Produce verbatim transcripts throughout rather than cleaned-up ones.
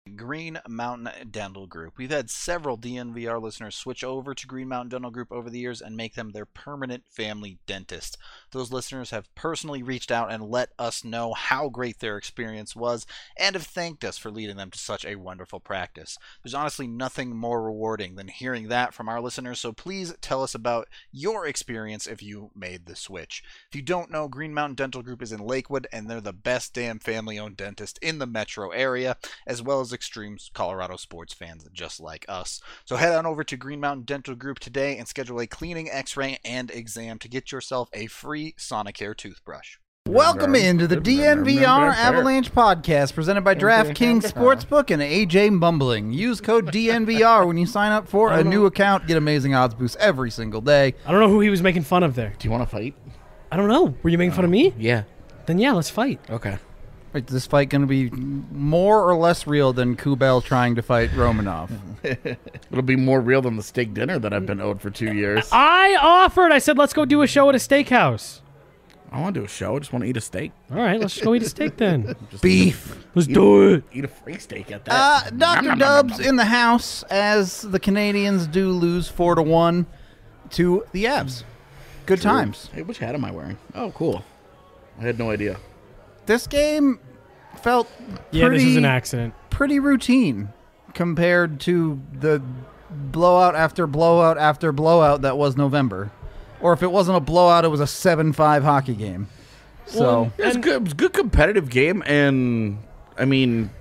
Green Mountain Dental Group. We've had several D N V R listeners switch over to Green Mountain Dental Group over the years and make them their permanent family dentist. Those listeners have personally reached out and let us know how great their experience was and have thanked us for leading them to such a wonderful practice. There's honestly nothing more rewarding than hearing that from our listeners, so please tell us about your experience if you made the switch. If you don't know, Green Mountain Dental Group is in Lakewood, and they're the best damn family-owned dentist in the metro area, as well as extreme Colorado sports fans just like us. So head on over to Green Mountain Dental Group today and schedule a cleaning, x-ray, and exam to get yourself a free Sonicare toothbrush. Welcome into the D N V R Avalanche podcast presented by DraftKings Sportsbook and A J Mumbling. Use code D N V R when you sign up for a new account. Get amazing odds boosts every single day. I don't know who he was making fun of there. Do you want to fight? I don't know. Were you making fun of me? Yeah. Then yeah, let's fight. Okay. Wait, is this fight going to be more or less real than Kubel trying to fight Romanov? It'll be more real than the steak dinner that I've been owed for two years. I offered. I said, let's go do a show at a steakhouse. I want to do a show. I just want to eat a steak. All right, let's just go eat a steak then. Beef. Let's do it. Eat a free steak at that. Uh, Doctor Dubs in the house as the Canadians do lose four to one to the Avs. Good True. times. Hey, which hat am I wearing? Oh, cool. I had no idea. This game felt Yeah, pretty, this is an accident. pretty routine compared to the blowout after blowout after blowout that was November. Or if it wasn't a blowout, it was a seven five hockey game. So Well, It was, And- good, it was a good competitive game, and, I mean,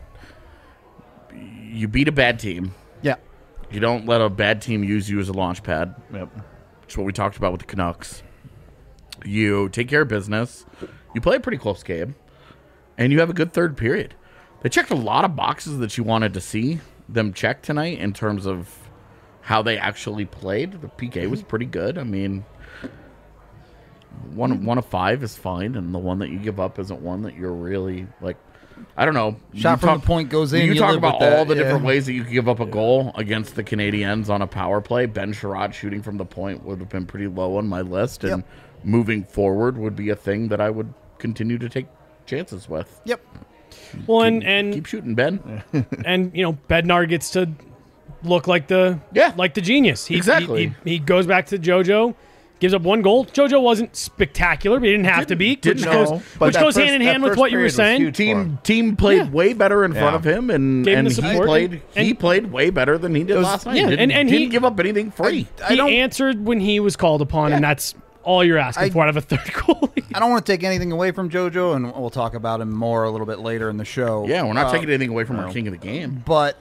you beat a bad team. yeah, You don't let a bad team use you as a launch pad. yep. Which is what we talked about with the Canucks. You take care of business. You play a pretty close game. And you have a good third period. They checked a lot of boxes that you wanted to see them check tonight in terms of how they actually played. The P K was pretty good. I mean, one, one of five is fine, and the one that you give up isn't one that you're really, like, I don't know. Shot You from talk- the point goes in. You, You talk live about with that, all the yeah. different ways that you could give up a goal against the Canadiens on a power play. Ben Sherrod shooting from the point would have been pretty low on my list, and Yep. moving forward would be a thing that I would continue to take chances with. Yep. Well, and and, Keep shooting, Ben. and you know, Bednar gets to look like the Yeah. like the genius. He, Exactly. He, he, he goes back to JoJo, gives up one goal. JoJo wasn't spectacular, but he didn't have to be. didn't which know, goes, but which that goes first- hand in that hand with first what you were period was saying. huge. Team team played Yeah. way better in front Yeah. of him, and, Gave him and the he support, played and- he played way better than he did was- last night. yeah, didn't, and- and didn't he- give up anything free. I He don't. answered when he was called upon, and that's all you're asking I- for out of a third goalie. I don't want to take anything away from JoJo, and we'll talk about him more a little bit later in the show. yeah, we're not Uh, taking anything away from our king of the game. But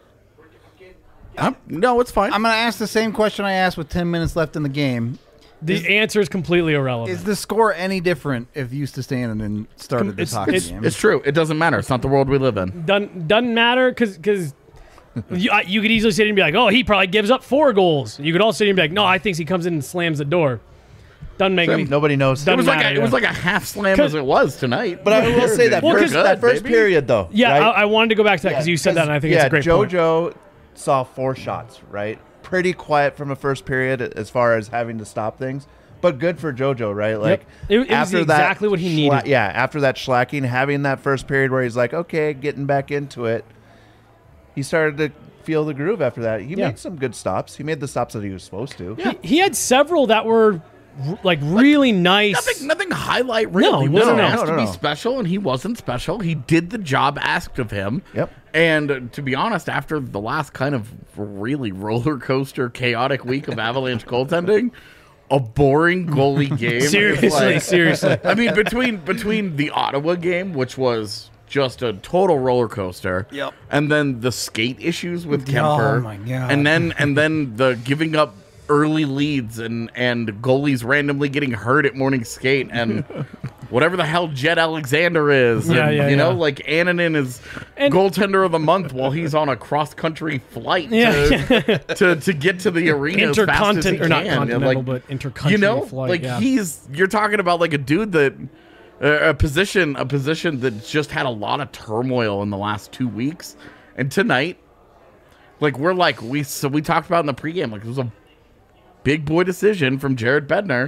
I'm, no, it's fine. I'm going to ask the same question I asked with ten minutes left in the game. The answer is completely irrelevant. Is the score any different if Eustace-Stananen started this It's- hockey it's- game? It's true. It doesn't matter. It's not the world we live in. doesn't doesn't matter because because you, uh, you could easily sit here and be like, oh, he probably gives up four goals. You could also sit here and be like, no, I think he comes in and slams the door. Doesn't make any. Nobody knows. It Doesn't was like matter, a, it was yeah. like a half slam as it was tonight. But I will say that Well, first, 'cause- that first baby. period, though. Yeah, right? I, I wanted to go back to that because you said that, and I think yeah, it's a great point. JoJo saw four shots, right? Pretty quiet from a first period as far as having to stop things, but good for JoJo, right? Like It- it was after exactly that what he schla- needed. Yeah, after that schlacking, having that first period where he's like, okay, getting back into it, he started to feel the groove after that. He Yeah. made some good stops. He made the stops that he was supposed to. He, he had several that were r- like really nice. Nothing, nothing highlight real. No, he no, wasn't no, no. asked No, no, to be no. special, and he wasn't special. He did the job asked of him. Yep. And uh, to be honest, after the last kind of really roller coaster, chaotic week of Avalanche goaltending, a boring goalie game. is Seriously, like- seriously. I mean, between between the Ottawa game, which was just a total roller coaster, Yep. and then the skate issues with Kemper, Oh, my God. and then and then the giving up early leads and and goalies randomly getting hurt at morning skate and whatever the hell Jed Alexander is, Yeah, and, yeah, you know, yeah. like Annunen is And- goaltender of the month while he's on a cross country flight Yeah. to, to to get to the arena as fast as he Intercontinental, or not can. And, continental, like, but intercontinental you know, flight. like yeah. he's you're talking about like a dude that uh, a position a position that just had a lot of turmoil in the last two weeks, and tonight, like we're like we so we talked about in the pregame, like it was a big boy decision from Jared Bednar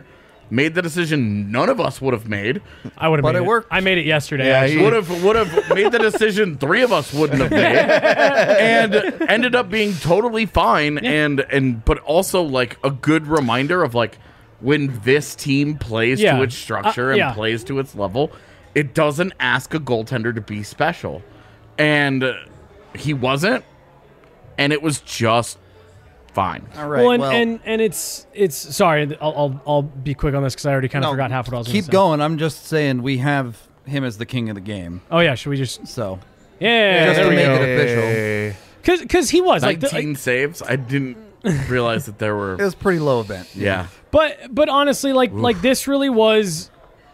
made the decision none of us would have made. I would have But made it it. worked. I made it yesterday. Yeah, actually. he- Would have would have made the decision three of us wouldn't have made, and ended up being totally fine. And and but also like a good reminder of like when this team plays Yeah. to its structure Uh, and yeah. plays to its level, it doesn't ask a goaltender to be special, and uh, he wasn't, and it was just fine. All right. Well, and, well, and and it's it's sorry. I'll I'll, I'll be quick on this because I already kind of no, forgot half what I was. Keep gonna say. going. I'm just saying we have him as the king of the game. Oh yeah, should we just? So Yeah, Just there to we make go. it official. Hey. Because because he was like, the, Nineteen like, saves. I didn't realize that there were. it was a pretty low event. Yeah. but but honestly, like like this really was.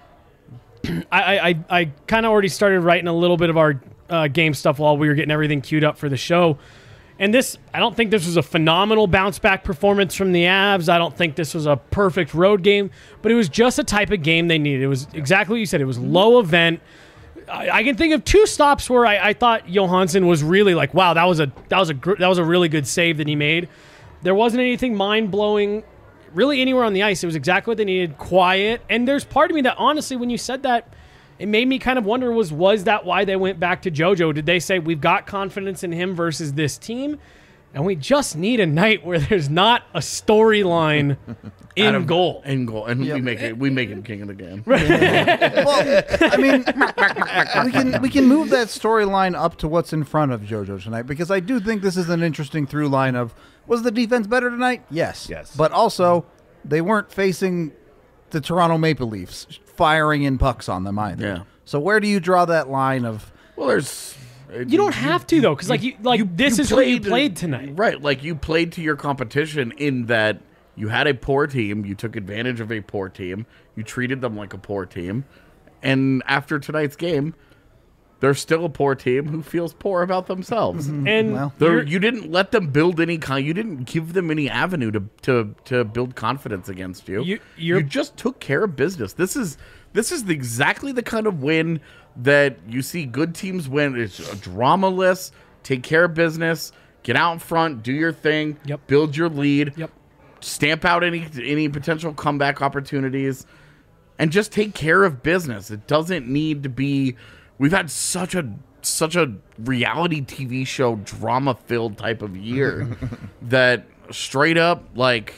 I I I kind of already started writing a little bit of our uh, game stuff while we were getting everything queued up for the show. And this, I don't think this was a phenomenal bounce back performance from the Avs. I don't think this was a perfect road game, but it was just a type of game they needed. It was exactly what you said. It was low event. I, I can think of two stops where I, I thought Johansson was really like, wow, that was a that was a gr- that was a really good save that he made. There wasn't anything mind blowing, really anywhere on the ice. It was exactly what they needed. Quiet, and there's part of me that honestly, when you said that, it made me kind of wonder: was was that why they went back to JoJo? Did they say we've got confidence in him versus this team, and we just need a night where there's not a storyline in Adam- goal? In goal, and we make it. We make him king of the game. Well, I mean, we can we can move that storyline up to what's in front of JoJo tonight because I do think this is an interesting through line of was the defense better tonight? Yes, Yes. but also they weren't facing the Toronto Maple Leafs firing in pucks on them either. Yeah. So where do you draw that line of? Well, there's. You don't have to though, because like you like this is what you played tonight. Right, like you played to your competition in that you had a poor team, you took advantage of a poor team, you treated them like a poor team, and after tonight's game, they're still a poor team who feels poor about themselves. And Well. They're- you're- you didn't let them build any kind. You didn't give them any avenue to to, to build confidence against you. You- you're- you just took care of business. This is this is the, exactly the kind of win that you see good teams win. It's a dramaless. Take care of business. Get out in front. Do your thing. Yep. Build your lead. Yep. Stamp out any any potential comeback opportunities, and just take care of business. It doesn't need to be. We've had such a such a reality T V show drama filled type of year that straight up like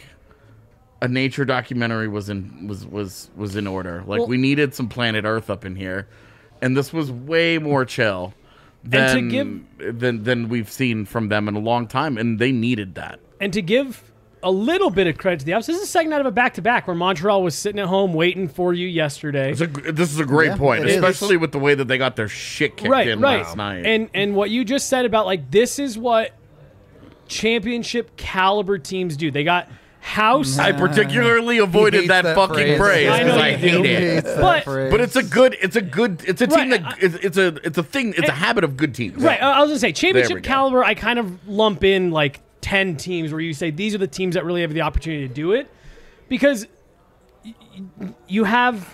a nature documentary was in was was was in order. Like Well- we needed some Planet Earth up in here, and this was way more chill And than to than than we've seen from them in a long time, and they needed that. And to give a little bit of credit to the Avs, this is the second night of a back-to-back where Montreal was sitting at home waiting for you yesterday. It's a, this is a great Yeah, point, it is. especially with the way that they got their shit kicked Right, in right. last night. And and what you just said about like this is what championship caliber teams do. They got house, I particularly avoided hates that, that fucking phrase. phrase I know because I, you hate do. He it. hates that But- phrase. But it's a good, it's a good, it's a team Right, that it's, it's a, it's a thing, it's a habit of good teams. right? I was gonna say we championship go. caliber. I kind of lump in like ten teams where you say these are the teams that really have the opportunity to do it because y- y- you have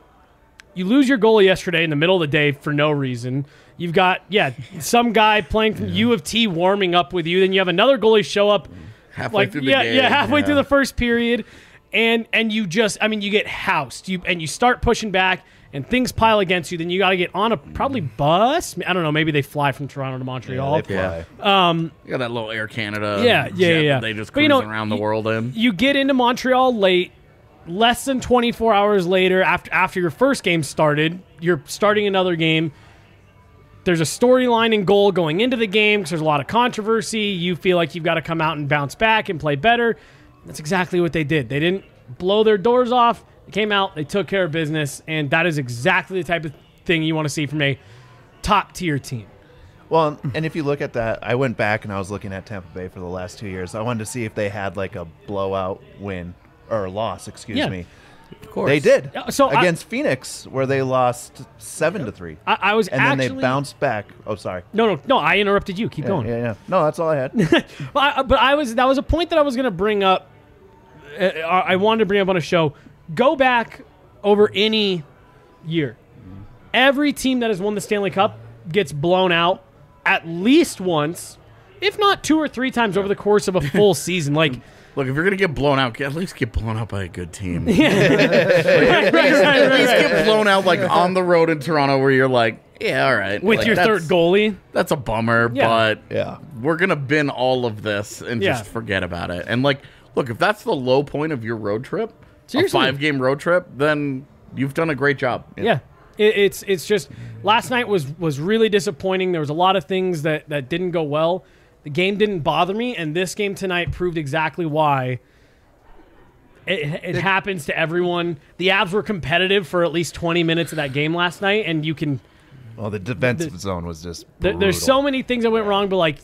you lose your goalie yesterday in the middle of the day for no reason. You've got yeah some guy playing from U of T warming up with you. Then you have another goalie show up Halfway like through the yeah game. yeah halfway yeah. through the first period, and and you just I mean you get housed. You and you start pushing back. And things pile against you, then you got to get on a probably bus. I don't know. Maybe they fly from Toronto to Montreal. They Yeah. fly. You got that little Air Canada. Yeah, yeah, jet yeah, that yeah. They just But, you cruise know, around the you- world in. You get into Montreal late, less than twenty-four hours later, after after your first game started, you're starting another game. There's a storyline and goal going into the game because there's a lot of controversy. You feel like you've got to come out and bounce back and play better. That's exactly what they did. They didn't blow their doors off. They came out, they took care of business, and that is exactly the type of thing you want to see from a top tier team. Well, and if you look at that, I went back and I was looking at Tampa Bay for the last two years. I wanted to see if they had like a blowout win or loss, excuse Yeah. me. Of course. They did. Yeah, so I- against Phoenix, where they lost seven to three, I, I was and actually then they bounced back. Oh, sorry. No, no, no. I interrupted you. Keep Yeah, going. yeah, yeah. No, that's all I had. But I, but I was that was a point that I was going to bring up. Uh, I wanted to bring up on a show. Go back over any year. Every team that has won the Stanley Cup gets blown out at least once, if not two or three times over the course of a full season. Like Look, if you're gonna get blown out, at least get blown out by a good team. Yeah. right, right, right, At least right, get right. blown out like on the road in Toronto, where you're like, yeah, all right. With Like, your that's- third goalie. That's a bummer, Yeah. but Yeah. we're gonna bin all of this and Yeah. just forget about it. And like, look, if that's the low point of your road trip, Seriously. a five game road trip, then you've done a great job. Yeah. It, it's it's just last night was was really disappointing. There was a lot of things that that didn't go well. The game didn't bother me, and this game tonight proved exactly why. It, it happens to everyone. The Avs were competitive for at least twenty minutes of that game last night, and you can. Well, the defensive zone was just. There, there's so brutal. many things that went wrong, but like,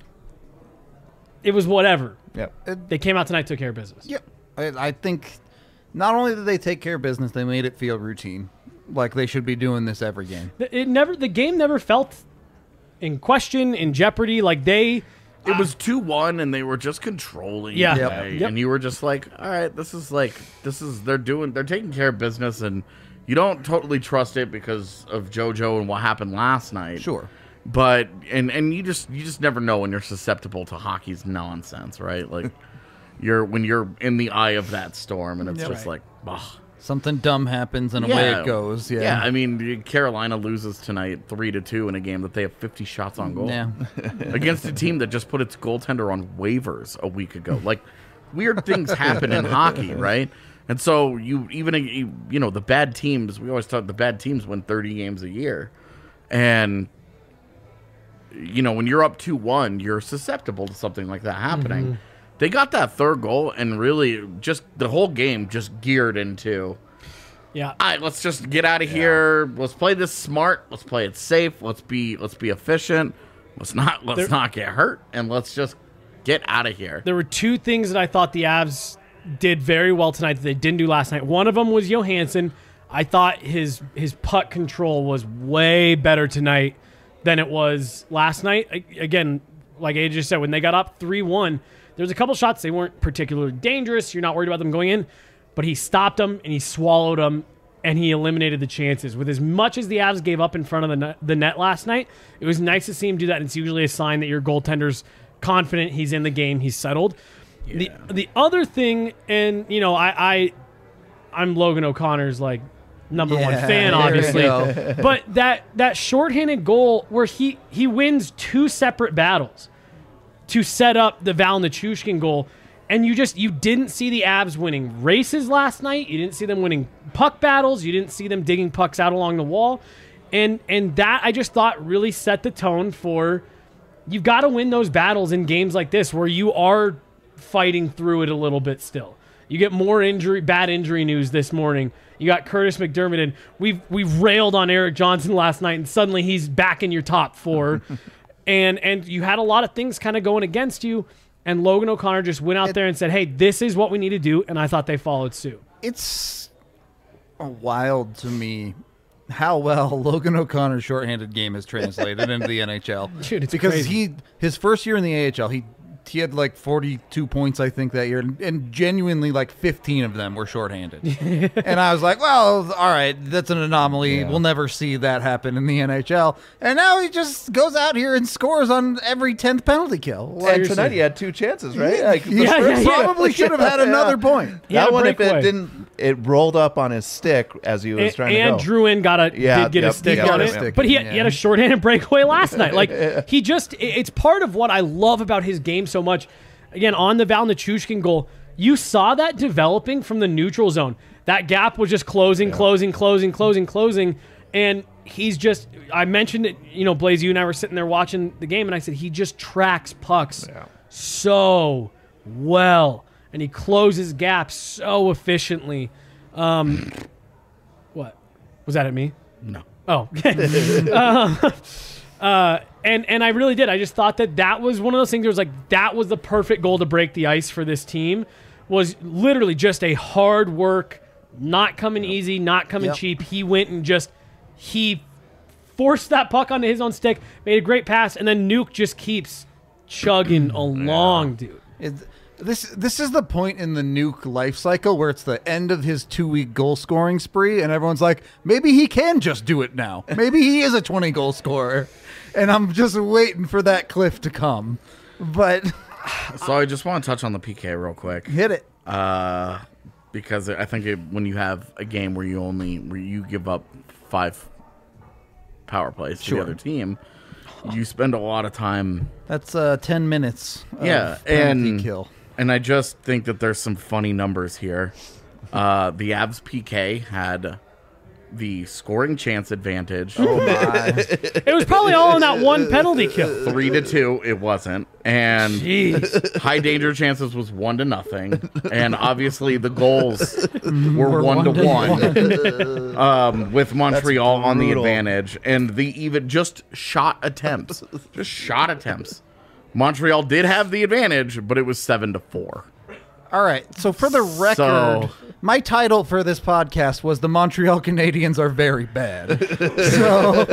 it was whatever. Yep. They came out tonight, took care of business. Yeah, I, I think not only did they take care of business, they made it feel routine, like they should be doing this every game. It never. The game never felt in question, in jeopardy. Like they. It was two one, and they were just controlling. Yeah. the Yep. play, Yep. And you were just like, all right, this is like, this is, they're doing, they're taking care of business, and you don't totally trust it because of JoJo and what happened last night. Sure. But, and, and you just, you just never know when you're susceptible to hockey's nonsense, right? Like, you're, when you're in the eye of that storm, and it's Yep. just like, ugh. Something dumb happens and away it goes. Yeah. Yeah, I mean, Carolina loses tonight three to two in a game that they have fifty shots on goal. Yeah. Against a team that just put its goaltender on waivers a week ago. Like, weird things happen in hockey, right? And so you even you, you know the bad teams. We always talk the bad teams win thirty games a year, and you know when you're up two one, you're susceptible to something like that happening. Mm-hmm. They got that third goal, and really just the whole game just geared into. Yeah. All right, let's just get out of here. Let's play this smart. Let's play it safe. Let's be let's be efficient. Let's not let's There- not get hurt, and let's just get out of here. There were two things that I thought the Avs did very well tonight that they didn't do last night. One of them was Johansson. I thought his his puck control was way better tonight than it was last night. A- Again, like A J just said, when they got up three one, there was a couple shots. They weren't particularly dangerous. You're not worried about them going in. But he stopped them, and he swallowed them, and he eliminated the chances. With as much as the Avs gave up in front of the net, the net last night, it was nice to see him do that. And it's usually a sign that your goaltender's confident, he's in the game, he's settled. The the other thing, and you know, I, I I'm Logan O'Connor's like number one Yeah, fan, there we obviously. go. But that that shorthanded goal where he he wins two separate battles to set up the Val Nichushkin goal. And you just you didn't see the Avs winning races last night. You didn't see them winning puck battles. You didn't see them digging pucks out along the wall. And and that I just thought really set the tone for you've got to win those battles in games like this where you are fighting through it a little bit still. You get more injury bad injury news this morning. You got Curtis McDermott, and we've we've railed on Eric Johnson last night, and suddenly he's back in your top four. and and you had a lot of things kind of going against you. And Logan O'Connor just went out It- there and said, hey, this is what we need to do. And I thought they followed suit. It's wild to me how well Logan O'Connor's shorthanded game has translated into the N H L. Dude, it's because crazy. he his first year in the A H L, he he had like forty-two points, I think, that year, and, and genuinely like fifteen of them were shorthanded. And I was like, well, all right, that's an anomaly. Yeah. We'll never see that happen in the N H L. And now he just goes out here and scores on every tenth penalty kill. Like, And tonight he had two chances, right? Like, the Yeah, first- yeah, yeah. probably should have had Yeah. another point. He had That a one, if breakaway. it didn't, it rolled up on his stick as he was And, trying and to go. Druin got a Yeah, did get a yep, stick he got on a it, stick but he in, had, he had yeah. a shorthanded breakaway last night. Like he just, it- it's part of what I love about his game so much. Again, on the Val Nichushkin goal, you saw that developing from the neutral zone. That gap was just closing, closing, closing, closing, closing, and he's just. I mentioned it. You know, Blaze, you and I were sitting there watching the game, and I said he just tracks pucks so well, and he closes gaps so efficiently. Um, what was that at me? No. Oh, uh, uh, and and I really did. I just thought that that was one of those things. Where it was like that was the perfect goal to break the ice for this team. Was literally just a hard work, not coming easy, not coming Yep. cheap. He went and just he forced that puck onto his own stick, made a great pass, and then Nuke just keeps chugging along, dude. It, this this is the point in the Nuke life cycle where it's the end of his two week goal scoring spree, and everyone's like, maybe he can just do it now. Maybe he is a twenty goal scorer, and I'm just waiting for that cliff to come. But So I just want to touch on the P K real quick. Hit it. Uh, because I think it, when you have a game where you only where you give up five power plays to Sure. the other team, you spend a lot of time. That's uh, ten minutes. Of Yeah, penalty and kill. and I just think that there's some funny numbers here. Uh, the Avs P K had the scoring chance advantage. Oh my! It was probably all on that one penalty kill. Three to two, it wasn't, and Jeez. high danger chances was one to nothing, and obviously the goals were We're one, to one one, um, with Montreal on the brutal. advantage, and the even just shot attempts, just shot attempts. Montreal did have the advantage, but it was seven to four. All right. So for the record, So- my title for this podcast was "The Montreal Canadiens Are Very Bad." So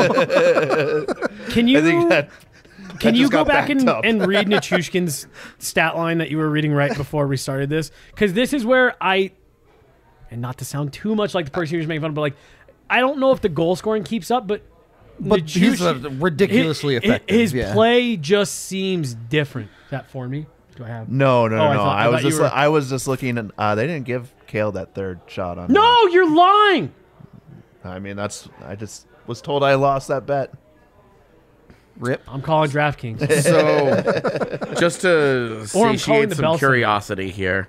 Can you I think that can you just go got back and, backed up. and read Nichushkin's stat line that you were reading right before we started this? Because this is where I, and not to sound too much like the person who's making fun, but like I don't know if the goal scoring keeps up, but but he's uh, Nichushkin- ridiculously his, effective. His yeah. play just seems different. Is that for me? Do I have? no, no, Oh, no, I no. thought- I I, was thought you just were- I was just looking. And, uh, they didn't give Kale that third shot on. No, you're lying. that. I mean that's. I just was told I lost that bet. Rip. I'm calling DraftKings. So, just to Or I'm calling satiate the some bell signal. curiosity here,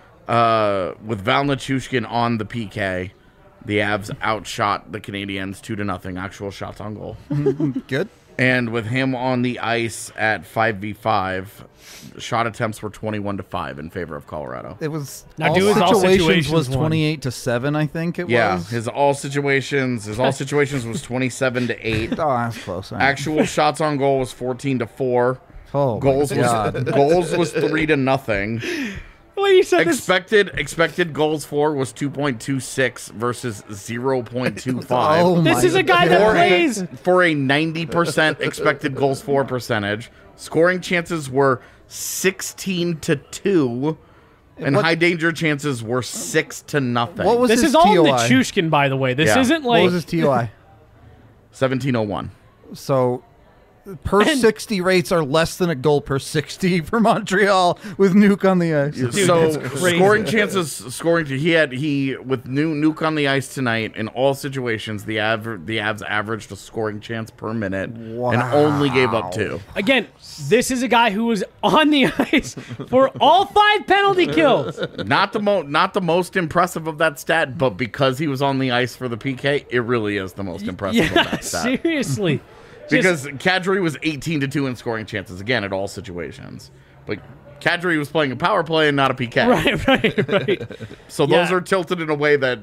uh, with Val Nichushkin on the P K, the Avs outshot the Canadiens two to nothing. Actual shots on goal, Good. and with him on the ice at five v five, shot attempts were twenty-one to five in favor of Colorado. It was Now, all do his all situations, situations was one. twenty-eight to seven. I think it Yeah, was. his all situations, his all situations was twenty-seven to eight. Oh, that's close. All right. Actual shots on goal was fourteen to four. oh, my Goals was God. goals was three to nothing. Well, you said this. Expected expected goals for was two point two six versus zero point two five. Oh, This my is a guy that God. for a, plays. for a ninety percent expected goals for percentage. Scoring chances were sixteen to two, and What- high danger chances were six to nothing. What was This his is all T O I? Nichushkin, by the way. This Yeah. isn't What like was his T O I? seventeen oh one. So per sixty rates are less than a goal per sixty for Montreal with Nuke on the ice. so that's crazy. scoring chances, scoring. He had he with new Nuke on the ice tonight. In all situations, the aver, the Avs averaged a scoring chance per minute and only gave up two. again. This is a guy who was on the ice for all five penalty kills. Not the mo- not the most impressive of that stat, but because he was on the ice for the P K, it really is the most impressive of Yeah, that stat. seriously. Because Kadri was eighteen to two in scoring chances again at all situations, but Kadri was playing a power play and not a P K. Right, right, right. So those Yeah. are tilted in a way that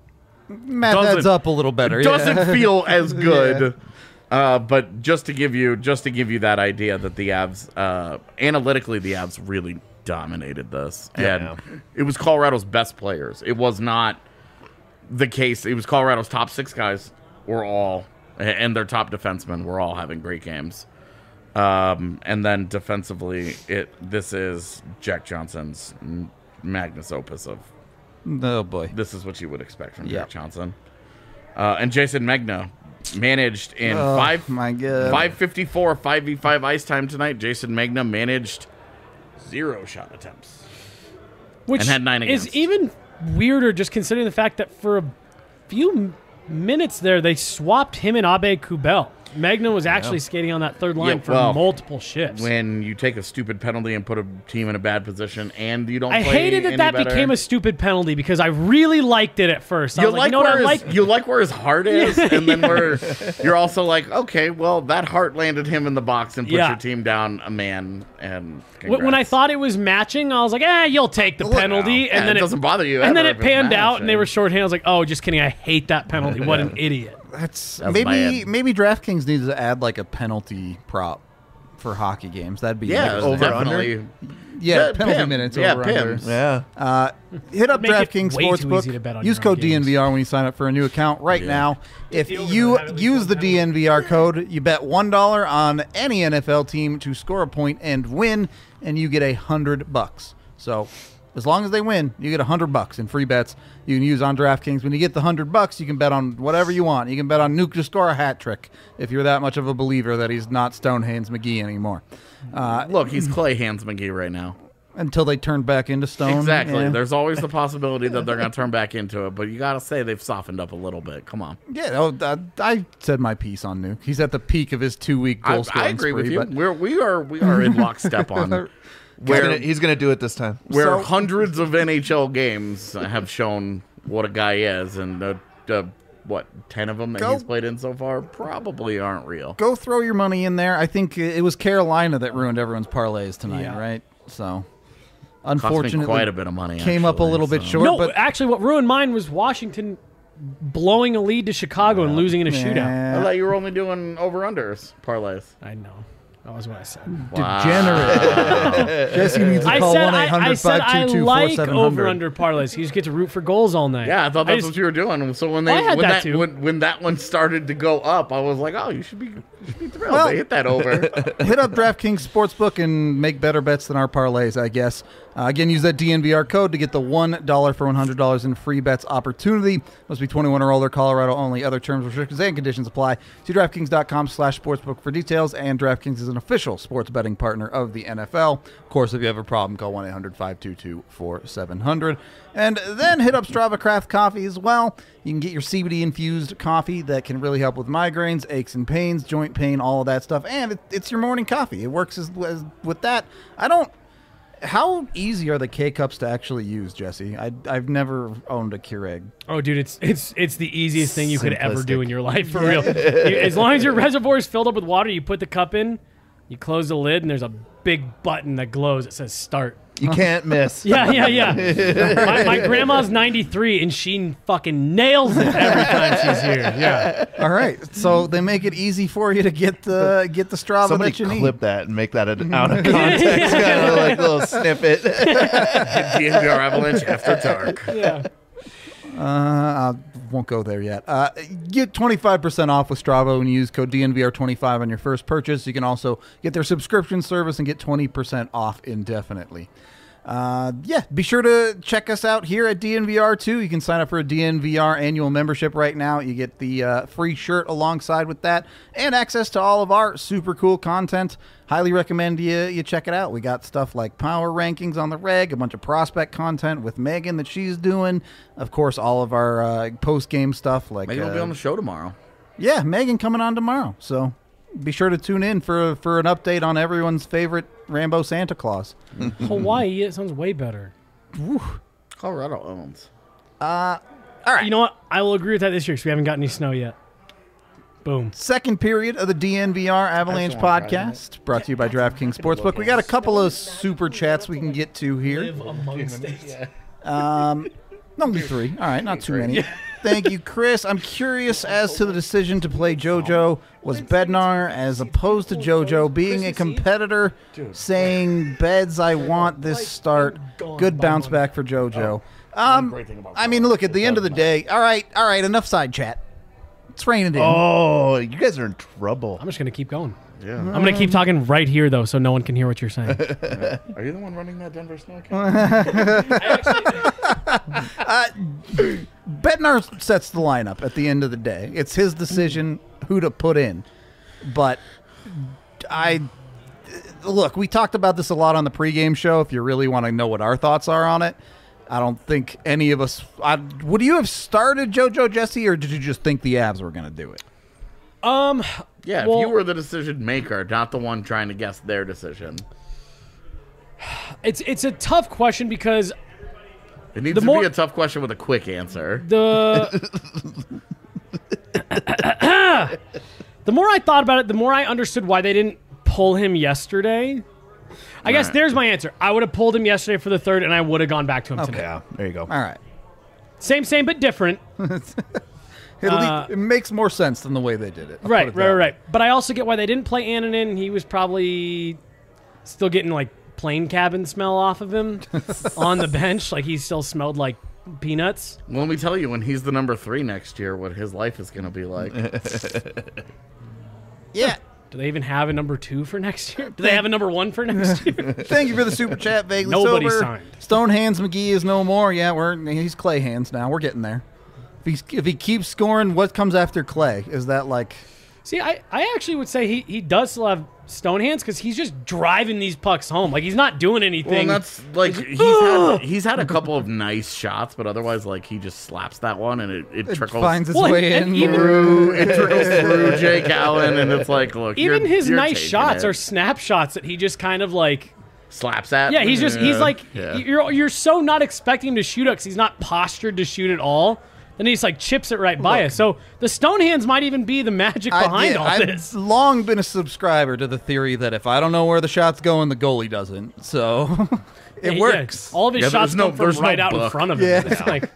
Matt doesn't- adds up a little better. doesn't yeah. feel as good. Uh, but just to give you just to give you that idea that the Avs uh, analytically the Avs really dominated this, Yeah. and it was Colorado's best players. It was not the case. It was Colorado's top six guys were all, and their top defensemen were all having great games. Um, and then defensively, it this is Jack Johnson's magnus opus of Oh boy. this is what you would expect from Yeah. Jack Johnson. Uh, and Jason Megna managed in Oh, five my God. five fifty four five v five ice time tonight. Jason Megna managed zero shot attempts. Which And had nine is against. even weirder, just considering the fact that for a few m- minutes there, they swapped him and Abe Kubel. Magna was actually skating on that third line Yeah, for well, multiple shifts. When you take a stupid penalty and put a team in a bad position, and you don't, I play hated that any that better, became a stupid penalty because I really liked it at first. I You was like, like, you know what where I his, like? you like where his heart is, and then where you're also like, okay, well, that heart landed him in the box and put Yeah. your team down a man. And Wh- When I congrats. thought it was matching, I was like, eh, you'll take the penalty. Yeah, and then it doesn't bother you And then ever it if it's panned out and they matching. were shorthanded. I was like, oh, just kidding. I hate that penalty. What an idiot. That's That's maybe bad. maybe DraftKings needs to add like a penalty prop for hockey games. That'd be yeah, like, over definitely. yeah, Yeah, penalty Pim. minutes Yeah, over Pims. under. Yeah. Uh, hit up Make it DraftKings way too easy to bet Sportsbook. on Use your own code games. D N V R when you sign up for a new account right Yeah. now. If you were you gonna have at least use one the penalty. D N V R code, you bet one dollar on any N F L team to score a point and win, and you get a hundred bucks. So As long as they win, you get a hundred bucks in free bets you can use on DraftKings. When you get the hundred bucks, you can bet on whatever you want. You can bet on Nuke to score a hat trick if you're that much of a believer that he's not Stonehands McGee anymore. Uh, Look, he's Clay Hands McGee right now. Until they turn back into Stone. Exactly. Yeah. There's always the possibility that they're going to turn back into it, but you got to say they've softened up a little bit. Come on. Yeah, oh, I, I said my piece on Nuke. He's at the peak of his two-week goal I, scoring I agree spree, with you. but We're, we are we are in lockstep on He's where gonna, he's gonna do it this time. where So- hundreds of N H L games have shown what a guy is, and uh, uh, what ten of them that Go. he's played in so far probably aren't real. go throw your money in there. I think it was Carolina that ruined everyone's parlays tonight, Yeah. right? So, Cost me unfortunately, quite a bit of money. came up a actually, little bit so. short. No, but actually, what ruined mine was Washington blowing a lead to Chicago and losing in a shootout. I Yeah. thought you were only doing over-unders parlays. I know. That was what I said. Degenerate. Jesse needs to I call said one eight I, I hundred said five I two two four like seven over hundred. under parlays. You just get to root for goals all night. Yeah, I thought that's just- what you were doing. So when they I had when that that, too. when, when that one started to go up, I was like, oh, you should be you should be thrilled. Well- they hit that over. Hit up DraftKings Sportsbook and make better bets than our parlays, I guess. Uh, again, use that D N V R code to get the one dollar for one hundred dollars in free bets opportunity. Must be twenty-one or older, Colorado only. Other terms, restrictions, and conditions apply. See DraftKings.com slash sportsbook for details. And DraftKings is an official sports betting partner of the N F L. Of course, if you have a problem, call one eight hundred five two two four seven hundred. And then hit up Strava Craft Coffee as well. You can get your C B D-infused coffee that can really help with migraines, aches and pains, joint pain, all of that stuff. And it, it's your morning coffee. It works as, as with that. I don't... How easy are the K-Cups to actually use, Jesse? I, I've never owned a Keurig. Oh, dude, it's it's it's the easiest thing you could ever do Simplistic. in your life, for real. You- as long as your reservoir is filled up with water, you put the cup in, you close the lid, and there's a big button that glows. It says start. You can't miss. Yeah, yeah, yeah. my, my grandma's ninety-three, and she fucking nails it every time she's here. Yeah. All right, so they make it easy for you to get the get the Strava Somebody that you clip need. that and make that an out of context kind of like little snippet. D N V R Avalanche after dark. Yeah. Uh, I won't go there yet. Uh, get twenty-five percent off with Strava when you use code D N V R twenty-five on your first purchase. You can also get their subscription service and get twenty percent off indefinitely. Uh, yeah, be sure to check us out here at D N V R too. You can sign up for a D N V R annual membership right now. You get the uh, free shirt alongside with that and access to all of our super cool content. Highly recommend you you check it out. We got stuff like power rankings on the reg, a bunch of prospect content with Megan that she's doing. Of course, all of our uh, post game stuff like Maybe we'll uh, be on the show tomorrow. yeah, Megan coming on tomorrow. So be sure to tune in for for an update on everyone's favorite Rambo Santa Claus. Hawaii, it sounds way better. Colorado owns. All right. You know what? I will agree with that this year because we haven't got any snow yet. Boom. Second period of the D N V R Avalanche I just wanna try podcast, brought to you by DraftKings Sportsbook. We got a couple of super chats we can get to here. amongst it. Um, only three. All right, not too many. Thank you, Chris. I'm curious as to the decision to play JoJo. Was Bednar, as opposed to JoJo, being a competitor, saying, Beds, I want this start. Good bounce back for JoJo. Um, I mean, look, at the end of the day, all right, all right, enough side chat. Let's rein it in. Oh, you guys are in trouble. I'm just going to keep going. Yeah. I'm going to keep talking right here, though, so no one can hear what you're saying. Are you the one running that Denver Snow Camp? Bednar sets the lineup at the end of the day. It's his decision who to put in. But I look, we talked about this a lot on the pregame show. If you really want to know what our thoughts are on it, I don't think any of us. I, would you have started JoJo Jesse, or did you just think the Avs were going to do it? Um, Yeah, Well- if you were the decision maker, not the one trying to guess their decision. it's it's a tough question because It needs The to more- be a tough question with a quick answer. the the more I thought about it, the more I understood why they didn't pull him yesterday. I guess Right. there's my answer. I would have pulled him yesterday for the third, and I would have gone back to him today. Yeah, there you go. All right. Same, same, but different. It'll Uh, it makes more sense than the way they did it. I'll Right, put it right, that right, way. right. But I also get why they didn't play Annunen. He was probably still getting like plane cabin smell off of him on the bench. Like he still smelled like peanuts. Well, let me tell you, when he's the number three next year, what his life is going to be like. Yeah. Do they even have a number two for next year? Do they have a number one for next year? Thank you for the super chat, Vaguely Nobody Sober. signed. Stone Hands McGee is no more. Yeah, we're he's Clay Hands now. We're getting there. If he if he keeps scoring, what comes after Clay? Is that like? See, I, I actually would say he, he does still have stone hands because he's just driving these pucks home. Like, he's not doing anything. Well, that's like he's had, he's had a couple of nice shots, but otherwise, like, he just slaps that one and it, it It trickles finds its Well, way and in. even- through. It trickles through Jake Allen, and it's like, look, Even you're- his you're nice taking shots it. are snapshots that he just kind of like. slaps at. Yeah, he's just he's Yeah. like Yeah. you're you're so not expecting him to shoot it because he's not postured to shoot at all. Then he just like chips it right by us. So the stone hands might even be the magic I- behind yeah, all I've this. long been a subscriber to the theory that if I don't know where the shot's going, the goalie doesn't. So it Yeah, works. all of his Yeah, shots there's no- come from there's no right out in book. front of him. Yeah. It's like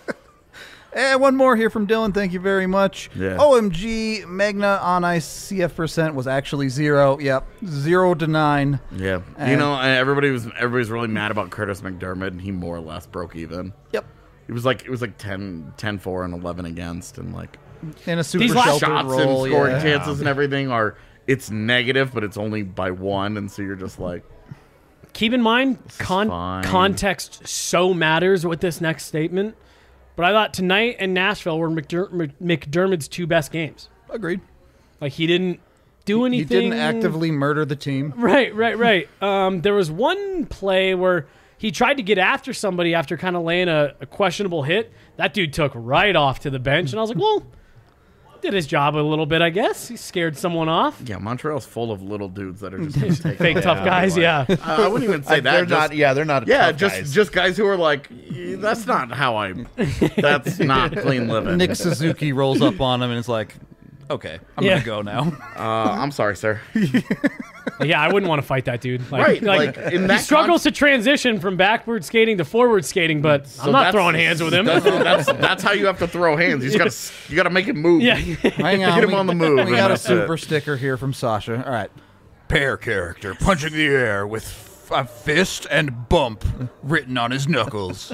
And one more here from Dylan. Thank you very much. Yeah. O M G, Magna on ice C F percent was actually zero. Yep, zero to nine. Yeah, you And- know, everybody was everybody's really mad about Curtis McDermott, and he more or less broke even. Yep. It was like it was like ten, ten four and eleven against, and like In a super These last sheltered shots role. and scoring yeah. chances and everything are it's negative, but it's only by one, and so you're just like, keep in mind con- fine. context so matters with this next statement. But I thought tonight and Nashville were McDer- Mc- McDermott's two best games. Agreed. Like he didn't do He anything. didn't actively murder the team. Right, right, right. Um, there was one play where he tried to get after somebody after kind of laying a, a questionable hit. That dude took right off to the bench, and I was like, well, did his job a little bit, I guess. He scared someone off. yeah, Montreal's full of little dudes that are just gonna take Fake it tough out. guys, Like, yeah. I, I wouldn't even say I- that. they're just- not. Yeah, they're not. Yeah, tough just guys. just guys who are like, "Y- that's not how I. That's not clean living. Nick Suzuki rolls up on him and is like, "Okay, I'm Yeah. gonna go now." Uh, I'm sorry, sir. Yeah, I wouldn't want to fight that dude. Like, Right, like, like, in he that struggles to transition from backward skating to forward skating, but So I'm not that's- throwing hands with him. That's, that's that's how you have to throw hands. You just gotta you gotta make it move. Yeah. Hang on, Hit him we, on the move, We and got a that's super it. sticker here from Sasha. All right, pair character punching the air with f- a fist and bump written on his knuckles.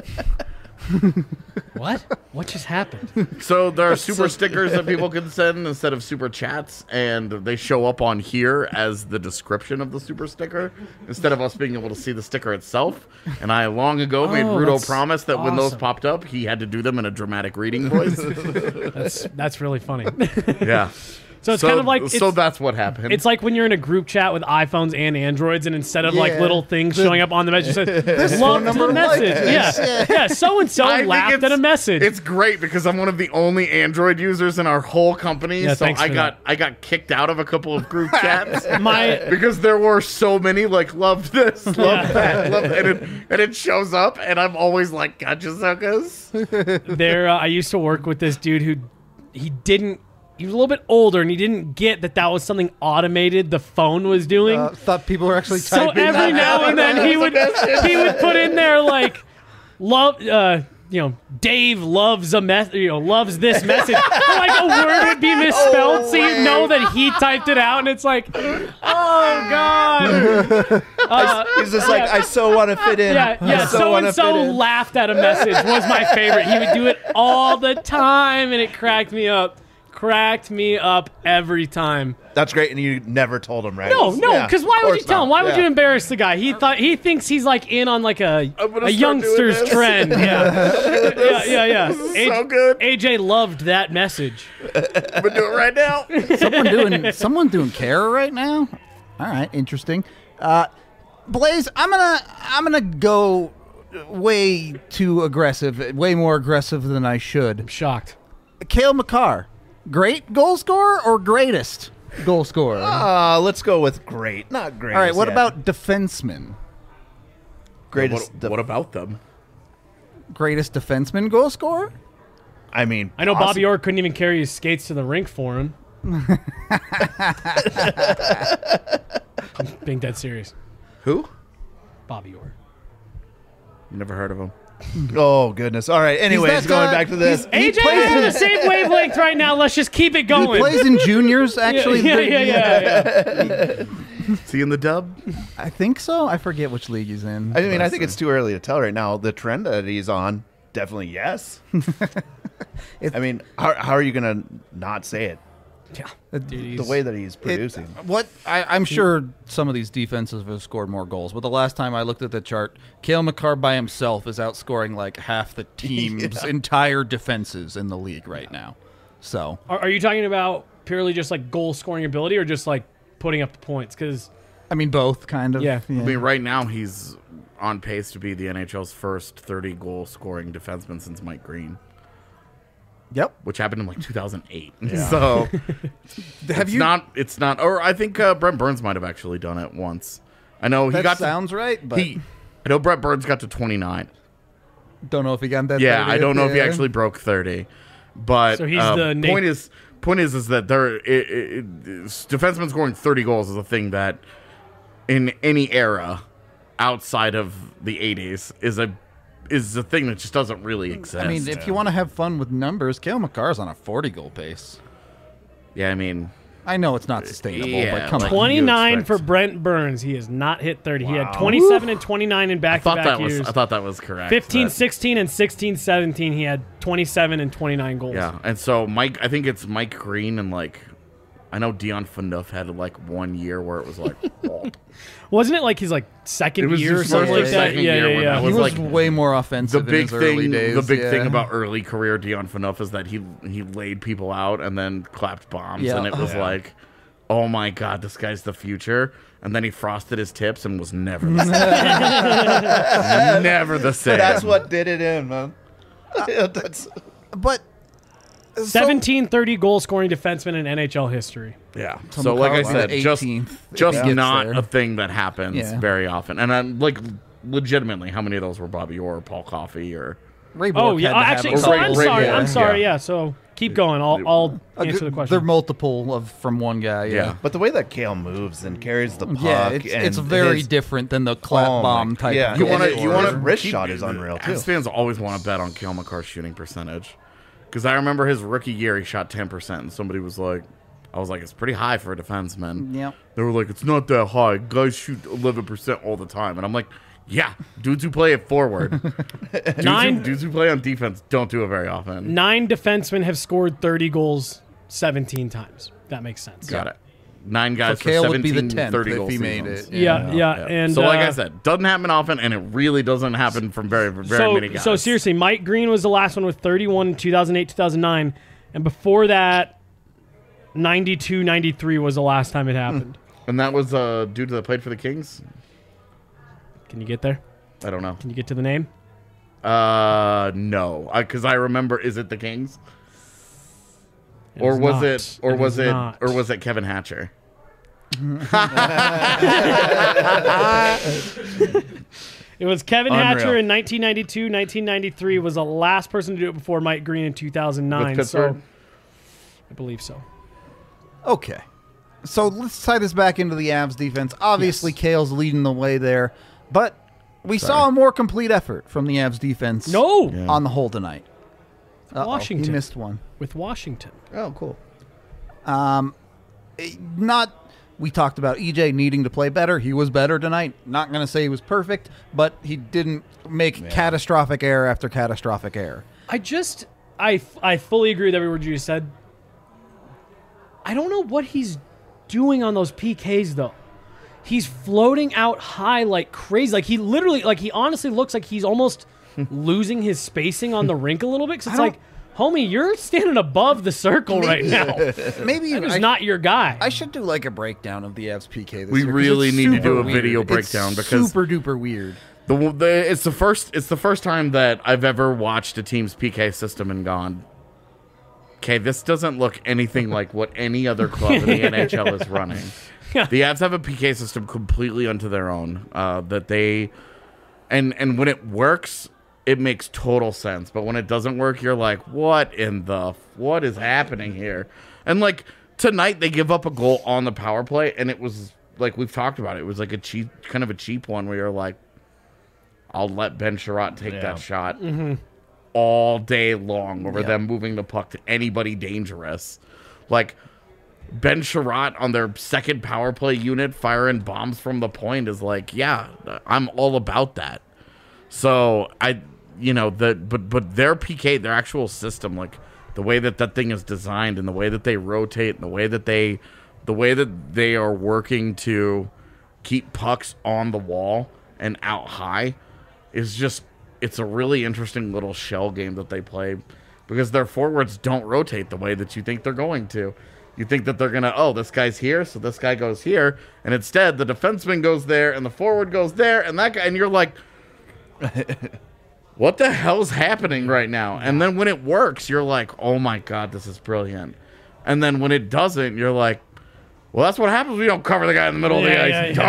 What? What just happened? So there are super stickers that people can send instead of super chats, and they show up on here as the description of the super sticker instead of us being able to see the sticker itself. And I long ago made Oh, Rudo that's promise that when those awesome. popped up, he had to do them in a dramatic reading voice. That's that's really funny. yeah. So it's so, kind of like so it's, that's what happened. it's like when you're in a group chat with iPhones and Androids, and instead of like Yeah. little things showing up on the message, it says phone "Love number the liked message." this. Yeah, yeah. So and so I think laughed it's- at a message. It's great because I'm one of the only Android users in our whole company. Yeah, so thanks I for got I got kicked out of a couple of group chats. My Because there were so many like loved this, loved Yeah. that, loved and it, and it shows up, and I'm always like, "Gotcha, suckers." there, uh, I used to work with this dude who he didn't. He was a little bit older, and he didn't get that that was something automated the phone was doing. Uh, thought people were actually so typing. every that now out. and then he would he would put in there like love. Uh, you know, Dave loves a mess. You know, loves this message. But, like a word would be misspelled, so you know that he typed it out, and it's like, oh god. Uh, He's just like, I so want to fit in. yeah, I yeah. So wanna and so fit in." laughed at a message was my favorite. He would do it all the time, and it cracked me up. Cracked me up every time. That's great, and you never told him, right? No, no, Yeah, because why of would you course tell him? not. Why would Yeah. you embarrass the guy? He thought he thinks he's like in on like a I'm gonna a start doing youngster's this. trend. Yeah, yeah, yeah, yeah. A- so good. A J loved that message. I'm gonna do it right now. Someone doing someone doing Kara right now. All right, interesting. Uh, Blaze, I'm gonna I'm gonna go way too aggressive, way more aggressive than I should. Shocked. Cale Makar, great goal scorer or greatest goal scorer? Uh, let's go with great, not great. All right, what about defenseman? greatest? What, def- what about them? Greatest defenseman goal scorer? I mean, I know awesome. Bobby Orr couldn't even carry his skates to the rink for him. I'm being dead serious. Who? Bobby Orr. Never heard of them. Oh goodness! All right. Anyways, that, going uh, back to this. He A J plays is on in- the same wavelength right now. Let's just keep it He going. plays in juniors, yeah, actually. yeah, The- yeah, yeah, yeah. See in the dub? I think so. I forget which league he's in. I mean, I think it's too early to tell right now. The trend that he's on, definitely yes. I mean, how, how are you gonna not say it? Yeah, Dude, Dude, The he's- way that he's It- producing. what I, I'm sure some of these defenses have scored more goals, but the last time I looked at the chart, Cale Makar by himself is outscoring like half the team's entire defenses in the league right now. So Are, are you talking about purely just like goal scoring ability, or just like putting up the points? Because I mean, both kind of. Yeah. I mean, right now he's on pace to be the N H L's first thirty goal scoring defenseman since Mike Green, Yep. which happened in like two thousand eight. So Have it's you? not it's not or I think uh, Brent Burns might have actually done it once. I know he that got sounds right, to, but he I know Brent Burns got to twenty-nine. don't know if he got that. Yeah, I thirtieth, don't know if he yeah. actually broke thirty. But So he's um, the Nate- point is point is is that there it, it, it, defensemen scoring thirty goals is a thing that in any era outside of the eighties is a is a thing that just doesn't really exist. I mean, if you want to have fun with numbers, Cale Makar's on a forty goal pace. yeah, I mean, I know it's not sustainable, Yeah, but come like- on. twenty-nine expect- for Brent Burns. He has not hit thirty. He had twenty-seven and twenty-nine in I thought back-to-back that was years. I thought that was correct. fifteen, that- sixteen, and sixteen, seventeen. He had twenty-seven and twenty-nine goals. Yeah, and so Mike, I think it's Mike Green and like, I know Dion Phaneuf had like one year where it was like, oh. Wasn't it like his like second It was year or his something first or like that? second Yeah, year yeah, when yeah. that He was was like way more the offensive big in his early thing. days. The big yeah. thing about early career Dion Phaneuf is that he he laid people out and then clapped bombs, Yeah. and it was Yeah. like, oh my god, this guy's the future. And then he frosted his tips and was never the same. never the same. That's what did it in, man. That's But so- seventeen, thirty goal scoring defenseman in N H L history. Yeah. So So, like I Makar said, was just eighteenth, if just he gets not there. a thing that happens Yeah. very often. And I'm like, legitimately, how many of those were Bobby Orr or Paul Coffey or? Ray Oh Bork yeah, had oh, to have actually, a so Ray- I'm couple. Ray sorry. Bork, I'm sorry. yeah. Yeah. So keep going. I'll I'll A answer good- the question. They're multiple of from one guy. Yeah. Yeah. But the way that Kale moves and carries the puck, Yeah, it's, and it's very his, different than the clap Oh my- bomb type. yeah. of You And want to his- you want his to wrist shot is unreal, too. Habs fans always want to bet on Cale Makar's shooting percentage because I remember his rookie year he shot ten percent and somebody was like, I was like, it's pretty high for a defenseman. Yep. They were like, it's not that high. Guys shoot eleven percent all the time, and I'm like, yeah, dudes who play it forward, dudes, Nine- who, dudes who play on defense don't do it very often. Nine defensemen have scored thirty goals seventeen times. That makes sense. Got it. Nine guys So for Cale would seventeen, be the tenth thirty if goal he made seasons. it. Yeah, yeah, Yeah. and so, like uh, I said, doesn't happen often, and it really doesn't happen from very, very so, many guys. So seriously, Mike Green was the last one with thirty-one in two thousand eight, two thousand nine, and before that, ninety-two, ninety-three was the last time it happened. and that was uh, dude that played for the Kings. Can you get there? I don't know. Can you get to the name? Uh, no, because I, I remember. Is it the Kings, It or is was not. it, or was is it, not. or was it Kevin Hatcher? It was Kevin Unreal. Hatcher in nineteen ninety-two. nineteen ninety-three was the last person to do it before Mike Green in two thousand nine. With So Pittsburgh? I believe so. Okay. So let's tie this back into the Avs defense. Obviously, Yes. Kale's leading the way there, but we saw a more complete effort from the Avs defense. No, Yeah. on the whole tonight. Uh-oh, Washington. He missed one. with Washington. Oh, cool. Eh, Not. We talked about E J needing to play better. He was better tonight. Not going to say he was perfect, but he didn't make catastrophic error after catastrophic error. I just, I, I fully agree with every word you just said. I don't know what he's doing on those P Ks though. He's floating out high like crazy. Like he literally, like he honestly looks like he's almost losing his spacing on the rink a little bit. 'Cause it's don't- like, homie, you're standing above the circle right now. Maybe That is I, not your guy. I should do like a breakdown of the Avs P K this We year, 'cause really it's need to do super a video weird. breakdown It's because- super duper weird. The, the it's the first it's the first time that I've ever watched a team's P K system and gone, okay, this doesn't look anything like what any other club in the N H L is running. Yeah. The Avs have a P K system completely unto their own. Uh, that they and and when it works, it makes total sense. But when it doesn't work, you're like, what in the what is happening here? And like tonight, they give up a goal on the power play, and it was like we've talked about. It, it was like a cheap, kind of a cheap one where you're like, I'll let Ben Sherratt take Yeah. that shot all day long over Yeah. them moving the puck to anybody dangerous. Like Ben Sherratt on their second power play unit firing bombs from the point is like, yeah, I'm all about that. So I, you know, the but but their P K, their actual system, like the way that that thing is designed and the way that they rotate and the way that they the way that they are working to keep pucks on the wall and out high is just, it's a really interesting little shell game that they play because their forwards don't rotate the way that you think they're going to. You think that they're going to, oh, this guy's here, so this guy goes here. And instead, the defenseman goes there, and the forward goes there, and that guy, and you're like, what the hell's happening right now? And then when it works, you're like, oh my God, this is brilliant. And then when it doesn't, you're like, well, that's what happens when you don't cover the guy in the middle Yeah, of the yeah, ice,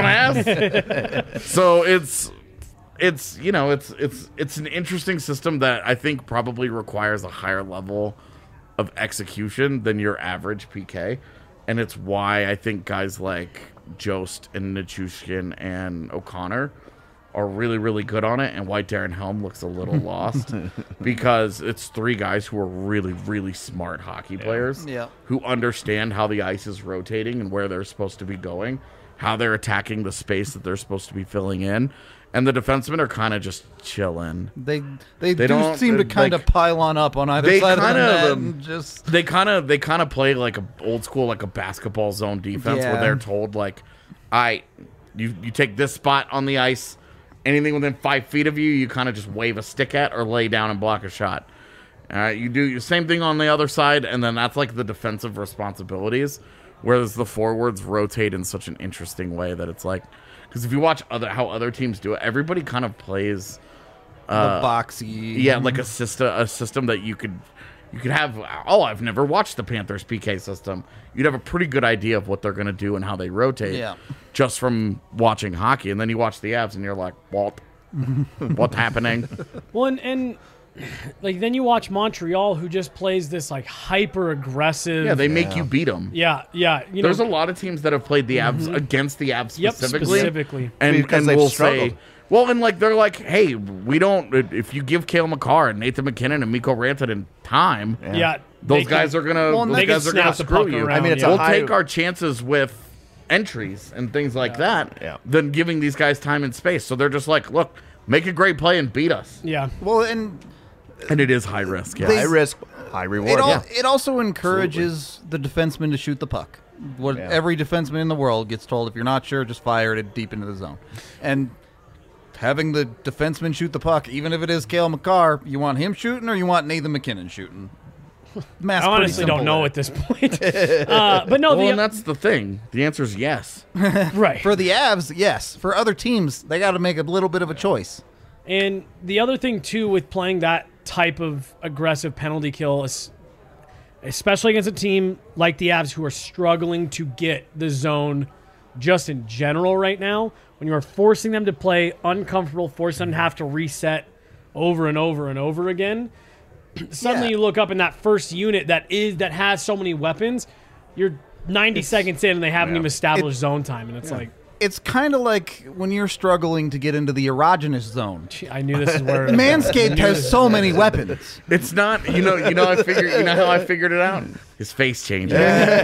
yeah. dumbass. So it's, it's, you know, it's, it's, it's an interesting system that I think probably requires a higher level of execution than your average P K, and it's why I think guys like Jost and Nichushkin and O'Connor are really, really good on it, and why Darren Helm looks a little lost because it's three guys who are really, really smart hockey players Yeah. who understand how the ice is rotating and where they're supposed to be going, how they're attacking the space that they're supposed to be filling in. And the defensemen are kind of just chilling. They they, They do don't- seem to like- kind of pile on up on either They side of the kinda, net um, and just They kind of they kind of play like a old school like a basketball zone defense Yeah. where they're told like, I, you you take this spot on the ice, anything within five feet of you, you kind of just wave a stick at or lay down and block a shot. All right, you do the same thing on the other side, and then that's like the defensive responsibilities. Whereas the forwards rotate in such an interesting way that it's like, because if you watch other how other teams do it, everybody kind of plays. the boxy. Yeah, like a system, a system that you could, you could have. Oh, I've never watched the Panthers P K system. You'd have a pretty good idea of what they're going to do and how they rotate, Yeah. just from watching hockey. And then you watch the Avs, and you're like, what, what's happening? Well, and, and like then you watch Montreal, who just plays this like hyper aggressive. Yeah, they make you beat them. yeah, yeah. You There's know, a lot of teams that have played the Avs against the Avs Yep, specifically, specifically. and, Because and they've we'll struggled. say, well, and like they're like, hey, we don't. If you give Cale McCarr and Nathan McKinnon and Mikko Rantanen time, yeah. those they guys can- are gonna Well, and those they can guys are gonna snap the screw puck you. around, I mean, it's a we'll high- take our chances with entries and things like that Yeah. than giving these guys time and space. So they're just like, look, make a great play and beat us. Yeah. Well, and And it is high risk. Yeah. They- High risk, high reward. it, al- yeah. it also encourages the defenseman to shoot the puck. What Yeah. every defenseman in the world gets told: if you're not sure, just fire it deep into the zone. And having the defenseman shoot the puck, even if it is Cale McCarr, you want him shooting or you want Nathan McKinnon shooting? Math's I pretty honestly simple don't know there. at this point. uh, but no, well, the, and that's the thing. The answer is yes. right. For the Avs, yes. For other teams, they got to make a little bit of a choice. And the other thing too with playing that type of aggressive penalty kill is, especially against a team like the Avs who are struggling to get the zone just in general right now, when you are forcing them to play uncomfortable, force them to have to reset over and over and over again, suddenly Yeah. you look up in that first unit that is that has so many weapons, you're ninety seconds in and they haven't yeah. even established zone time, and it's like, It's kind of like when you're struggling to get into the erogenous zone. gee, I knew this is where Manscaped has so many weapons. It's not. You know. You know. I figured. You know how I figured it out. His face changes.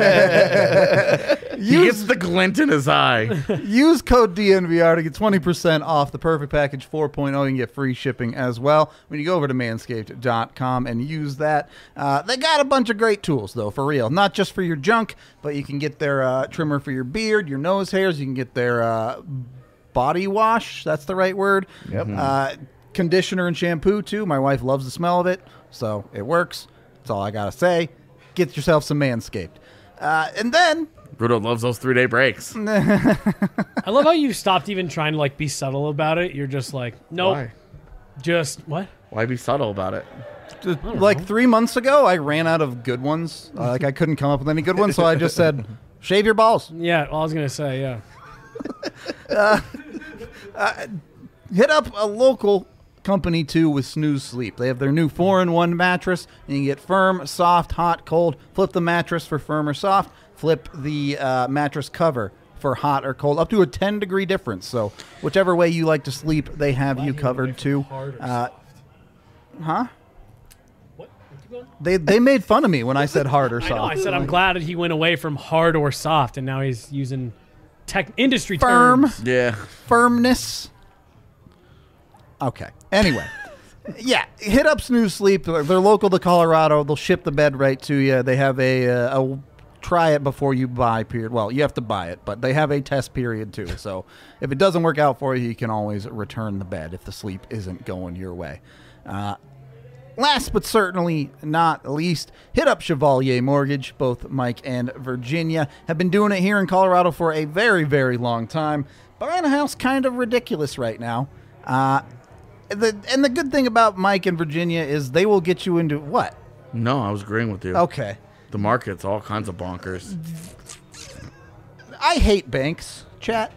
He gets the glint in his eye. Use code D N V R to get twenty percent off the Perfect Package four point oh. You can get free shipping as well when you go over to manscaped dot com and use that. Uh, they got a bunch of great tools, though, for real. Not just for your junk, but you can get their uh, trimmer for your beard, your nose hairs. You can get their uh, body wash. That's the right word. Yep. Uh, conditioner and shampoo, too. My wife loves the smell of it, so it works. That's all I got to say. Get yourself some Manscaped. Uh, and then... Rudo loves those three day breaks. I love how you stopped even trying to like be subtle about it. You're just like, nope, Why? just what? Why be subtle about it? Like three months ago, I ran out of good ones. Uh, like I couldn't come up with any good ones, so I just said, "Shave your balls." Yeah, well, I was gonna say, yeah. Hit up a local company too with Snooze Sleep. They have their new four in one mattress, and you get firm, soft, hot, cold. Flip the mattress for firm or soft. Flip the uh, mattress cover for hot or cold, up to a ten degree difference. So whichever way you like to sleep, they have you covered too. Uh, huh? What? Keep going. They they made fun of me when I said hard or I soft. know. I said I'm glad that he went away from hard or soft, and now he's using tech industry Firm. terms. Yeah. Firmness. Okay. Anyway, Yeah, hit up Snooze Sleep. They're they're local to Colorado. They'll ship the bed right to you. They have a, uh, a try it before you buy period. Well, you have to buy it, but they have a test period too. So if it doesn't work out for you, you can always return the bed if the sleep isn't going your way. Uh, last but certainly not least, hit up Chevalier Mortgage. Both Mike and Virginia have been doing it here in Colorado for a very, very long time. Buying a house kind of ridiculous right now. Uh, the and the good thing about Mike and Virginia is they will get you into what? No, I was agreeing with you. Okay. The market's all kinds of bonkers. I hate banks, chat.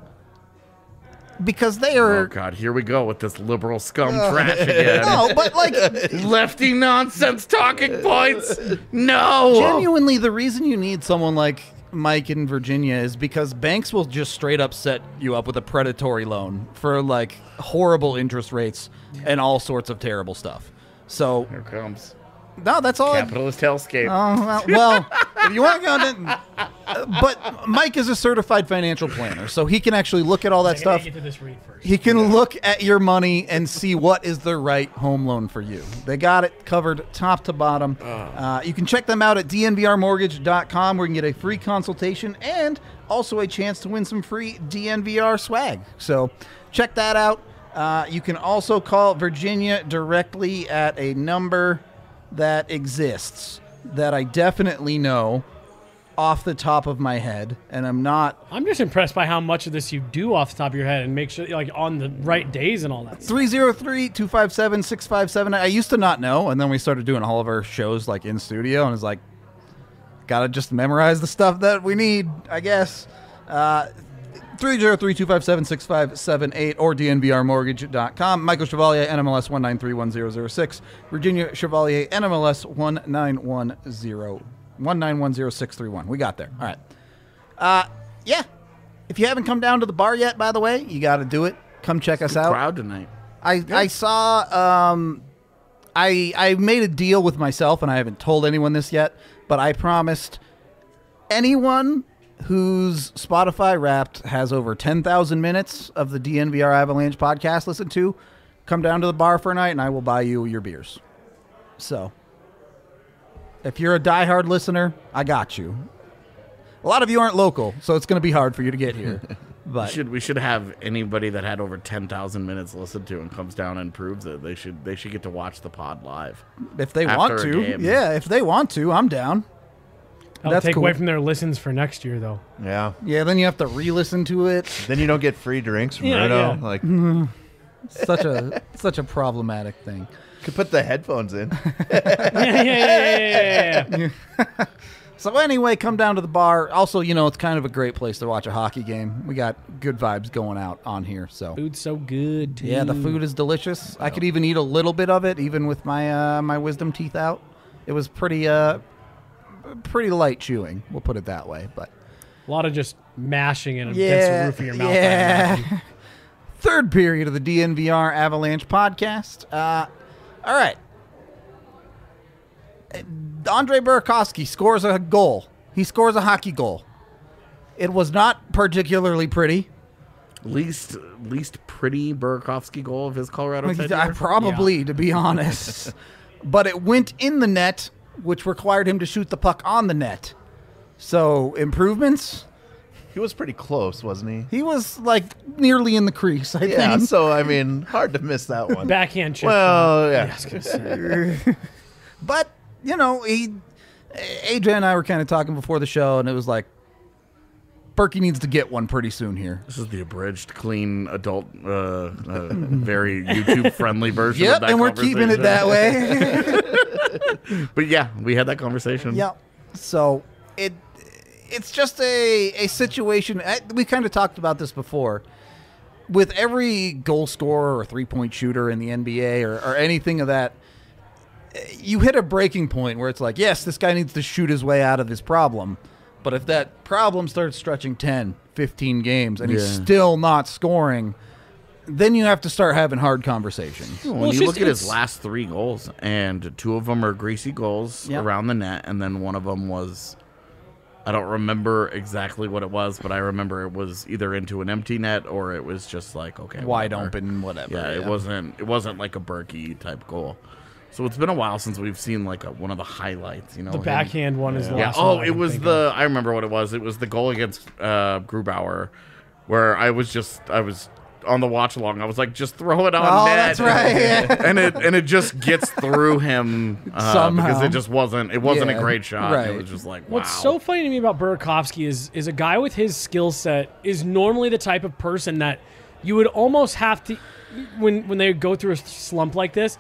Because they are... Oh, God, here we go with this liberal scum trash again. No, but like... Lefty nonsense talking points. No. Genuinely, the reason you need someone like Mike in Virginia is because banks will just straight up set you up with a predatory loan for like horrible interest rates and all sorts of terrible stuff. So... Here it comes. No, that's all. Capitalist hellscape. Oh, well, well if you want to go to, uh, but Mike is a certified financial planner, so he can actually look at all that I stuff. Get to this read first. He can look at your money and see what is the right home loan for you. They got it covered top to bottom. Uh, you can check them out at d n v r mortgage dot com where you can get a free consultation and also a chance to win some free D N V R swag. So check that out. Uh, you can also call Virginia directly at a number that exists that I definitely know off the top of my head, and I'm not... I'm just impressed by how much of this you do off the top of your head and make sure, like, on the right days and all that stuff. three oh three, two five seven, six five seven nine. I used to not know, and then we started doing all of our shows, like, in studio, and it's like, gotta just memorize the stuff that we need, I guess. Uh... three oh three, two five seven, six five seven eight or d n v r mortgage dot com. Michael Chevalier, N M L S one nine three one zero zero six. Virginia Chevalier, N M L S one nine one zero six three one. We got there. All right. Uh, yeah. If you haven't come down to the bar yet, by the way, you got to do it. Come check us out. Crowd tonight. I, I saw... Um, I I made a deal with myself, and I haven't told anyone this yet, but I promised anyone whose Spotify Wrapped has over ten thousand minutes of the D N V R Avalanche podcast listened to, come down to the bar for a night and I will buy you your beers. So, if you're a diehard listener, I got you. A lot of you aren't local, so it's going to be hard for you to get here. But We should we should have anybody that had over ten thousand minutes listened to and comes down and proves it. They should they should get to watch the pod live. if they After want a to, game. yeah, if they want to, I'm down. That'll That's take cool. away from their listens for next year, though. Yeah. Yeah, then you have to re-listen to it. Then you don't get free drinks from Yeah, Rudo. yeah. Like, Such a such a problematic thing. could put the headphones in. yeah, yeah, yeah, yeah, yeah. So anyway, come down to the bar. Also, you know, it's kind of a great place to watch a hockey game. We got good vibes going out on here. So Food's so good, too. yeah, the food is delicious. I could even eat a little bit of it, even with my uh, my wisdom teeth out. It was pretty uh pretty light chewing. We'll put it that way. But A lot of just mashing it against yeah, the roof of your mouth. I yeah. imagine. Third period of the D N V R Avalanche podcast. Uh, all right. Andre Burakovsky scores a goal. He scores a hockey goal. It was not particularly pretty. Least least pretty Burakovsky goal of his Colorado I tenure. probably, to be honest. But it went in the net, which required him to shoot the puck on the net. So, improvements? He was pretty close, wasn't he? He was, like, nearly in the crease, I Yeah, think. so, I mean, hard to miss that one. Backhand chip. Well, shot. yeah. I was gonna say. But, you know, he, A J and I were kind of talking before the show, and it was like, Berkey needs to get one pretty soon here. This is the abridged, clean, adult, uh, uh, very YouTube-friendly version of Yep, that and we're keeping it that way. But yeah, we had that conversation. Yep. So it it's just a a situation. I- We kind of talked about this before. With every goal scorer or three point shooter in the N B A or, or anything of that, you hit a breaking point where it's like, yes, this guy needs to shoot his way out of his problem. But if that problem starts stretching ten, fifteen games and he's Yeah. still not scoring, then you have to start having hard conversations. When Well, it's you just- look at his it's- last three goals, and two of them are greasy goals Yep. around the net, and then one of them was I don't remember exactly what it was, but I remember it was either into an empty net or it was just like, okay, Wide whatever. open, whatever. Yeah, it wasn't it wasn't like a Berkey type goal. So it's been a while since we've seen like a, one of the highlights, you know. The him- backhand one is the Yeah. last Oh, one I it can was think the of. I remember what it was. It was the goal against uh, Grubauer, where I was just I was on the watch along. I was like, just throw it on Oh, net. that's right. Yeah. and it and it just gets through him uh, Somehow. because it just wasn't it wasn't Yeah, a great shot. right. It was just like, wow. What's so funny to me about Burakovsky is is a guy with his skill set is normally the type of person that you would almost have to when when they go through a slump like this.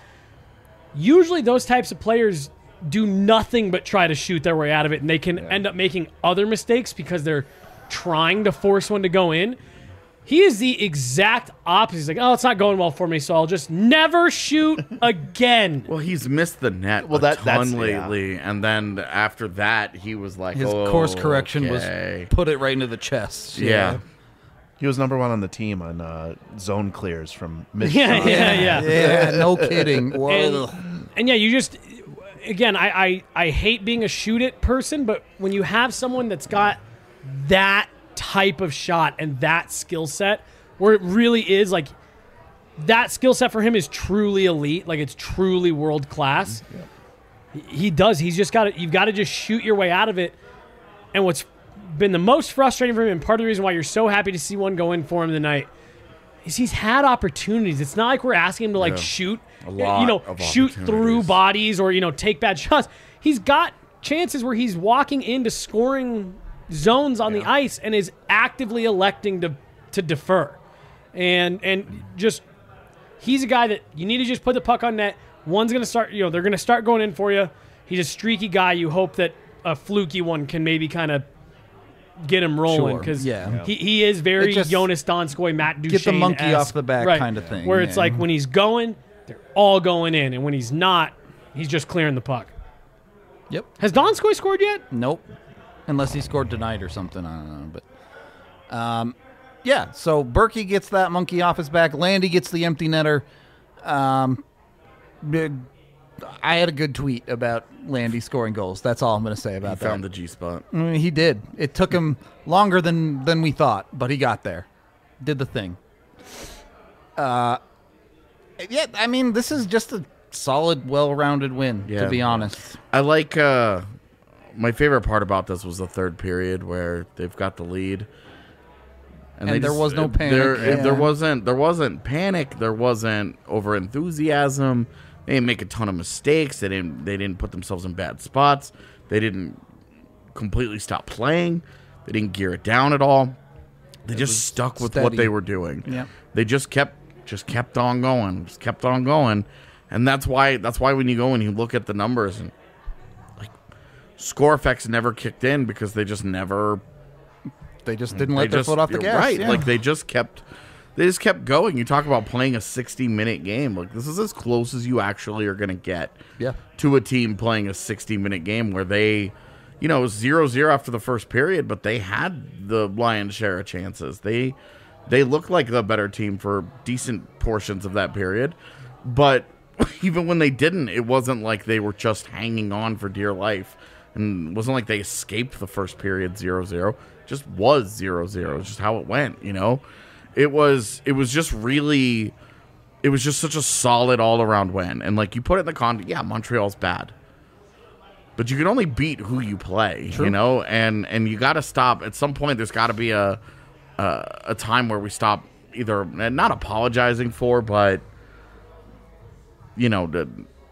Usually, those types of players do nothing but try to shoot their way out of it, and they can end up making other mistakes because they're trying to force one to go in. He is the exact opposite. He's like, oh, it's not going well for me, so I'll just never shoot again. Well, he's missed the net Well, a that- ton that's- yeah. lately, and then after that, he was like, His oh, course correction okay. was put it right into the chest. Yeah. He was number one on the team on uh, zone clears from Michigan. Yeah, yeah, yeah. Yeah, no kidding. Whoa. And, and yeah, you just, again, I, I, I hate being a shoot it person, but when you have someone that's got that type of shot and that skill set, where it really is like that skill set for him is truly elite, like it's truly world class. Yeah. He does. He's just got to, you've got to just shoot your way out of it. And what's been the most frustrating for him, and part of the reason why you're so happy to see one go in for him tonight, is he's had opportunities. It's not like we're asking him to like Yeah. shoot, A lot you know, of shoot through opportunities. bodies or, you know, take bad shots. He's got chances where he's walking into scoring zones on the ice and is actively electing to to defer. And and just he's a guy that you need to just put the puck on net. One's going to start, you know, they're going to start going in for you. He's a streaky guy. You hope that a fluky one can maybe kind of get him rolling Sure, because yeah. he, he is very It just- Jonas Donskoy, Matt Duchene. Get the monkey off the back kind of thing, Where it's yeah. like when he's going, they're all going in. And when he's not, he's just clearing the puck. Yep. Has Donskoy scored yet? Nope. Unless he scored tonight or something. I don't know. But um, yeah, so Berkey gets that monkey off his back. Landy gets the empty netter. Um, big- I had a good tweet about Landy scoring goals. That's all I'm going to say He about found that. the G spot. Mm, he did. It took him longer than, than we thought, but he got there. Did the thing. Uh, yeah, I mean, this is just a solid, well-rounded win, Yeah. to be honest. I like uh, my favorite part about this was the third period where they've got the lead, And they there was no panic, There, yeah. there wasn't. There wasn't panic. There wasn't over enthusiasm. They didn't make a ton of mistakes. They didn't. They didn't put themselves in bad spots. They didn't completely stop playing. They didn't gear it down at all. They just stuck with what steady. they were doing. Yeah. They just kept just kept on going. Just kept on going. And that's why that's why when you go and you look at the numbers and like score effects never kicked in because they just never They just didn't they let their just- foot off the you're gas. Right. yeah. Like they just kept they just kept going. You talk about playing a sixty minute game. Like this is as close as you actually are gonna get Yeah. to a team playing a sixty minute game where they you know, it was zero zero after the first period, but they had the lion's share of chances. They they looked like the better team for decent portions of that period. But even when they didn't, it wasn't like they were just hanging on for dear life. And it wasn't like they escaped the first period zero zero. It just was zero zero. It's just how it went, you know? It was it was just really it was just such a solid all around win. And like you put it in the con yeah, Montreal's bad. But you can only beat who you play, you know, and and you got to stop at some point. There's got to be a, a a time where we stop either not apologizing for, but you know, the,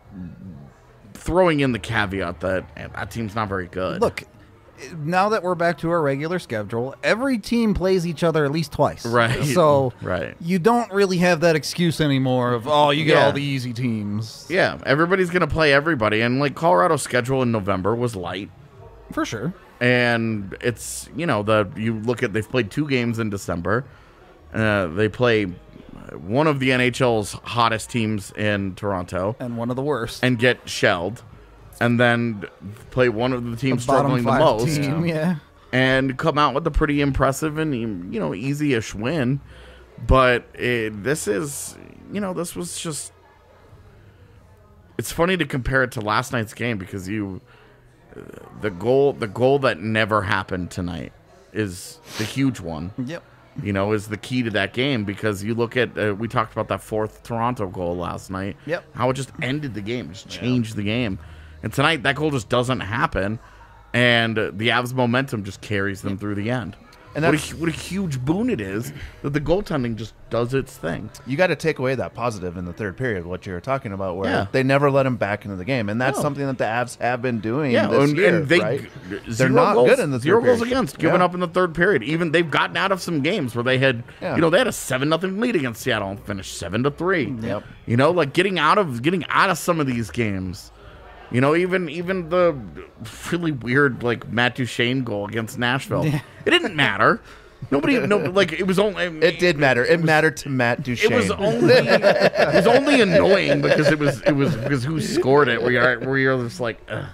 throwing in the caveat that eh, that team's not very good. Look, now that we're back to our regular schedule, every team plays each other at least twice. Right. So Right. you don't really have that excuse anymore of, oh, you get Yeah. all the easy teams. Yeah, everybody's gonna play everybody, and like Colorado's schedule in November was light. For sure. And it's you know the you look at they've played two games in December. Uh, they play one of the N H L's hottest teams in Toronto And one of the worst. and get shelled, and then play one of the teams The bottom struggling the five most team, yeah. and come out with a pretty impressive and you know easy-ish win. But it, this is you know this was just it's funny to compare it to last night's game because you. the goal the goal that never happened tonight is the huge one. Yep. You know, is the key to that game, because you look at uh, we talked about that fourth Toronto goal last night. Yep. How it just ended the game, just changed the game. And tonight that goal just doesn't happen, and uh, the Avs momentum just carries them through the end. And what that's- a, what a huge boon it is that the goaltending just does its thing. You got to take away that positive in the third period, what you were talking about, where Yeah. they never let him back into the game, and that's No. something that the Avs have been doing. Yeah, this and, year, and they right? zero They're not goals, good in the third zero goals period. against, giving Yeah. up in the third period. Even they've gotten out of some games where they had, Yeah. you know, they had a seven nothing lead against Seattle and finished seven to three. Yep. You know, like getting out of getting out of some of these games. You know, even even the really weird like Matt Duchene goal against Nashville. It didn't matter. Nobody, no, like it was only. It did matter. It, mattered to Matt Duchene. It was only it was only annoying because it was it was because who scored it. We are we are just like, ugh.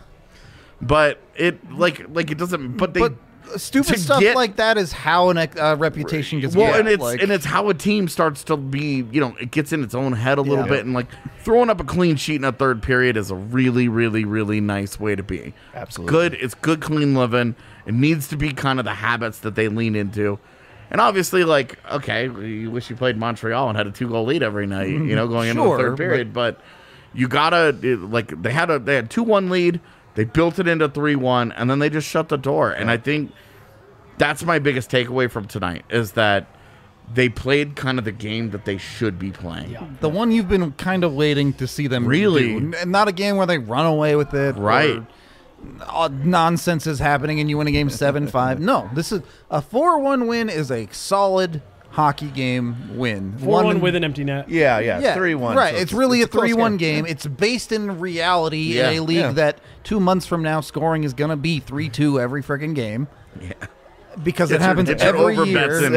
But it like like it doesn't. But they. But stupid to stuff get- like that is how a uh, reputation gets well, built. and it's like, and it's how a team starts to be. You know, it gets in its own head a little Yeah. bit, and like throwing up a clean sheet in a third period is a really, really, really nice way to be. Absolutely. Good. It's good, clean living. It needs to be kind of the habits that they lean into. And obviously, like, okay, you wish you played Montreal and had a two-goal lead every night, you know, going into Sure, the third period. But, you gotta it, like they had a they had two one lead, they built it into three one, and then they just shut the door. And I think that's my biggest takeaway from tonight is that they played kind of the game that they should be playing. Yeah. the one you've been kind of waiting to see them Really? do. And not a game where they run away with it. Right. Or uh, nonsense is happening and you win a game seven five. No, this is a four one win is a solid hockey game win. four one One- with an empty net. Yeah, yeah, Yeah, three one. Right, so it's really it's a three one close game. It's based in reality Yeah. in a league Yeah. that two months from now scoring is going to be three two every freaking game. Yeah. Because Get it your- happens get your every over year. bets in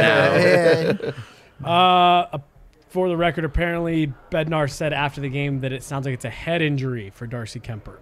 right Yeah. Uh, for the record, apparently Bednar said after the game that it sounds like it's a head injury for Darcy Kemper.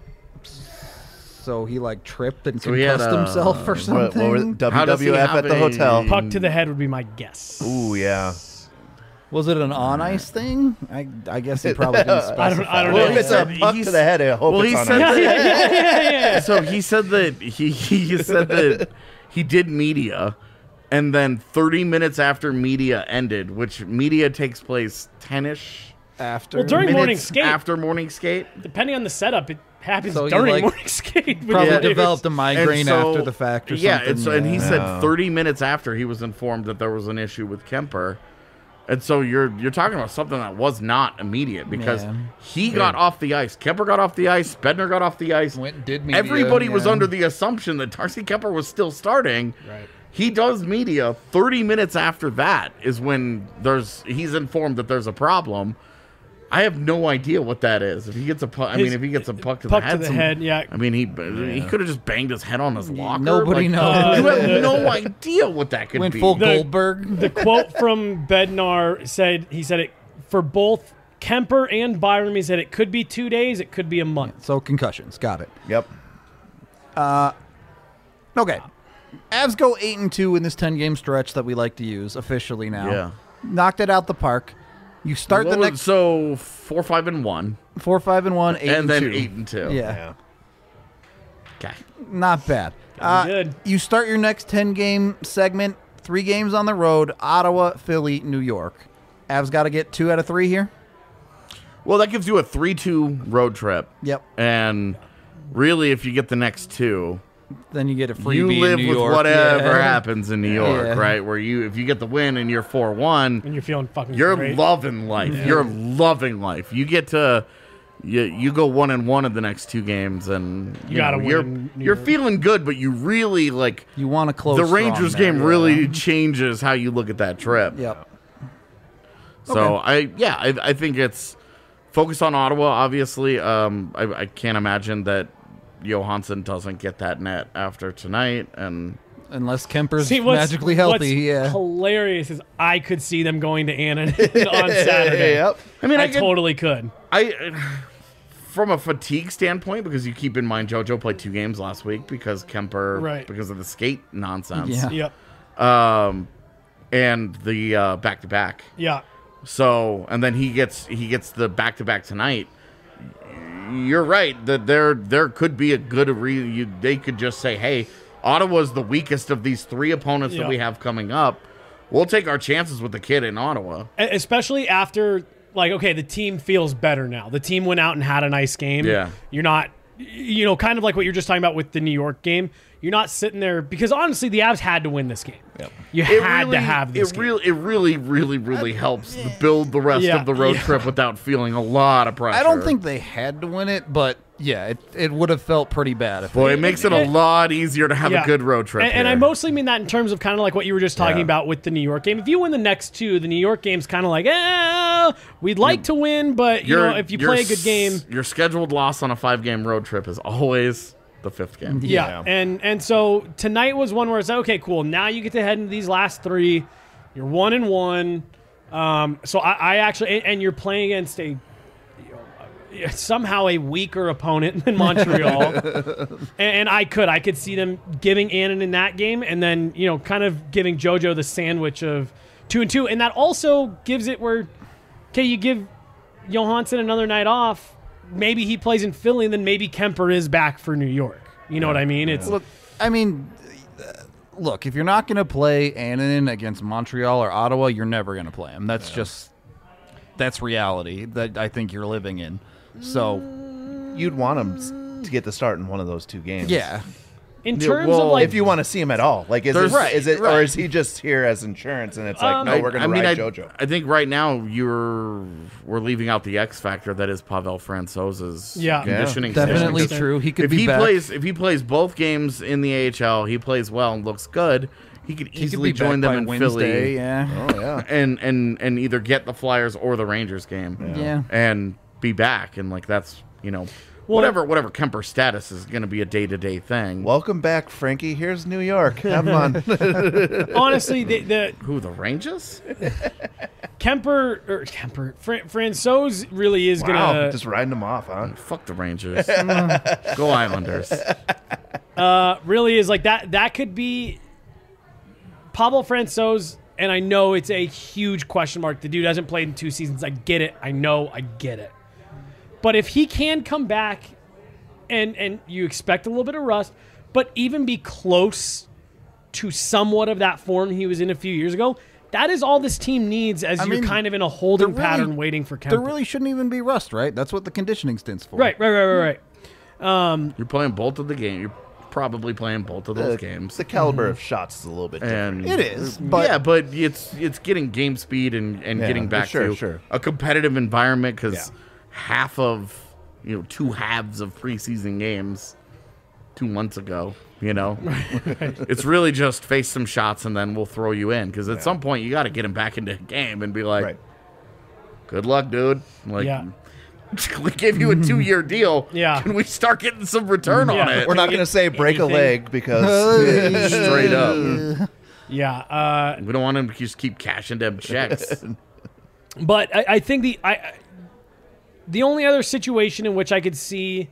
So he like tripped and So he had concussed a- himself or What, something. what were How does he W W F have at the a- hotel? Puck to the head would be my guess. Ooh, yeah. Was it an on ice thing? I I guess he probably didn't specify. I don't- I don't Well, know. if it's a He puck said- to the head, I hope well, it's he on said ice. yeah, yeah, yeah, yeah. So he said that he, he said that he did media, and then thirty minutes after media ended, which media takes place ten-ish After Well, during minutes morning skate, after morning skate. depending on the setup, it happens So you, during like, morning skate. which probably is- developed a migraine And so- after the fact or yeah, something. and so and he yeah. said Yeah. thirty minutes after he was informed that there was an issue with Kemper. And so you're you're talking about something that was not immediate because Yeah. he got off the ice. Kemper got off the ice. Bednar got off the ice. Went and did media, Everybody was yeah. under the assumption that Darcy Kemper was still starting. Right. He does media. thirty minutes after that is when there's he's informed that there's a problem. I have no idea what that is. If he gets a puck, I His- mean, if he gets a puck to puck the to head, the some- head, yeah. I mean, he he could have just banged his head on his locker. Nobody Like, knows. You have no idea what that could Went be. full The- Goldberg. The quote from Bednar said he said it for both Kemper and Byram. He said it could be two days, it could be a month. So concussions, got it. Yep. Okay, Avs go eight and two in this ten game stretch that we like to use officially now. Yeah. Knocked it out the park. You start What the was- next so four, five, and one, four, five, and one, eight and and then two. eight and two. Yeah, Yeah. Okay. not bad. Uh, good. You start your next ten game segment. Three games on the road: Ottawa, Philly, New York. Avs got to get two out of three here. Well, that gives you a three-two road trip, Yep. and really, if you get the next two, Then you get a freebie you in live New with York. whatever Yeah. happens in New York, Yeah. right? Where you, if you get the win and you're four one, And you're feeling fucking you're great. loving life. You're loving life. You get to you, you go one and one in the next two games, and you, You gotta know, win you're in New you're York. feeling good, but you really like You want to close the strong Rangers there, game. yeah. Really changes how you look at that trip. Yep. So I yeah I, I think it's focus on Ottawa. Obviously, um, I, I can't imagine that Johansson doesn't get that net after tonight, and Unless Kemper's See, what's, magically healthy. what's Yeah. hilarious is I could see them going to Anna on Saturday. Yep. I mean I, I, could- totally could. I from a fatigue standpoint, because you keep in mind JoJo played two games last week because Kemper Right. because of the skate nonsense. Yeah. Yep. Um, and the uh, back to back. Yeah. So and then he gets he gets the back to back tonight. you're right that there there could be a good re- you, they could just say, hey, Ottawa's the weakest of these three opponents Yeah. that we have coming up. We'll take our chances with the kid in Ottawa. Especially after, like, okay, the team feels better now. The team went out and had a nice game. Yeah. You're not, you know, kind of like what you're just talking about with the New York game. You're not sitting there because honestly, the Avs had to win this game. Yep. You It had really, to have this it game. really, it really, really, really helps build the rest Yeah, of the road yeah. trip without feeling a lot of pressure. I don't think they had to win it, but yeah, it, it would have felt pretty bad if Boy, they it makes it a lot easier to have Yeah. a good road trip. And, and I here. mostly mean that in terms of kind of like what you were just talking Yeah. about with the New York game. If you win the next two, the New York game's kind of like, eh, we'd like to win, but you Your- know, if you your play a good game, s- your scheduled loss on a five-game road trip is always the fifth game. yeah. Yeah. And and so tonight was one where it's like, okay, cool. Now you get to head into these last three. You're one and one. Um, so I, I actually, and, and you're playing against a you know, somehow a weaker opponent than Montreal. and, and I could, I could see them giving Annan in that game, and then you know, kind of giving JoJo the sandwich of two and two, and that also gives it where, okay, you give Johansson another night off. Maybe he plays in Philly, and then maybe Kemper is back for New York. You know what I mean? It's Look, I mean, uh, look, if you're not going to play Annan against Montreal or Ottawa, you're never going to play him. That's just that's reality that I think you're living in. So, You'd want him s- to get the start in one of those two games. yeah. in Yeah, terms well, of like If you want to see him at all, like, is There's- it, Right, is it, right. or is he just here as insurance? And it's like, Um, no, we're going to ride I, JoJo. I think right now you're we're leaving out the X factor that is Pavel Francouz's Yeah. conditioning. Yeah, Definitely station. true. He could If be he back. plays, if he plays both games in the A H L, he plays well and looks good. He could He could easily be join back them by in Wednesday, Philly yeah. Oh yeah. and and and either get the Flyers or the Rangers game. Yeah. and be back, and like that's you know. Well, whatever, whatever Kemper's status is going to be a day to day thing. Welcome back, Frankie. Here's New York. Have fun. honestly, the, the Who, the Rangers? Kemper or Kemper Fran- Francouz really is wow, gonna just riding him off, huh? Fuck the Rangers. Go Islanders. uh, really is like that. That could be Pavel Francouz, and I know it's a huge question mark. The dude hasn't played in two seasons. I get it. I know. I get it. But if he can come back, and and you expect a little bit of rust, but even be close to somewhat of that form he was in a few years ago, that is all this team needs as I you're mean, kind of in a holding there really- pattern waiting for Kemper. There really shouldn't even be rust, right? That's what the conditioning stint's for. right, right, right, right, right. You're playing both of the game. You're probably playing both of those The, games. the caliber of shots is a little bit different. and It is, but- yeah, but it's it's getting game speed and, and Yeah, getting back sure, to sure. a competitive environment because Yeah. half of you know two halves of preseason games two months ago, you know, it's really just face some shots and then we'll throw you in because at some point you got to get him back into a game and be like, Right. good luck, dude. Like. Yeah. We gave you a two-year deal. Yeah. Can we start getting some return on Yeah. it? We're not going to say break a Anything- leg because Straight up. Yeah. Uh, We don't want him to just keep cashing them checks. But I, I think the I, I- the only other situation in which I could see,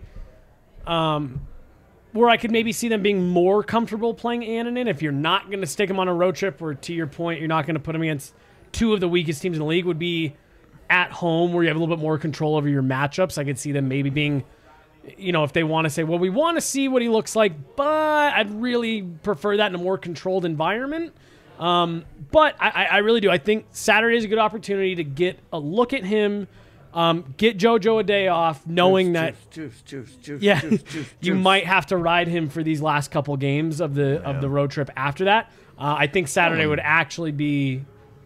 um, where I could maybe see them being more comfortable playing Annunen, if you're not going to stick him on a road trip, or to your point, you're not going to put him against two of the weakest teams in the league, would be at home, where you have a little bit more control over your matchups. I could see them maybe being, you know, if they want to say, well, we want to see what he looks like, but I'd really prefer that in a more controlled environment. Um, but I, I I really do. I think Saturday is a good opportunity to get a look at him, um, get JoJo a day off, knowing that Juice, juice, juice, yeah, juice, juice, you juice. might have to ride him for these last couple games of the of the road trip after that. Uh, I think Saturday would actually be.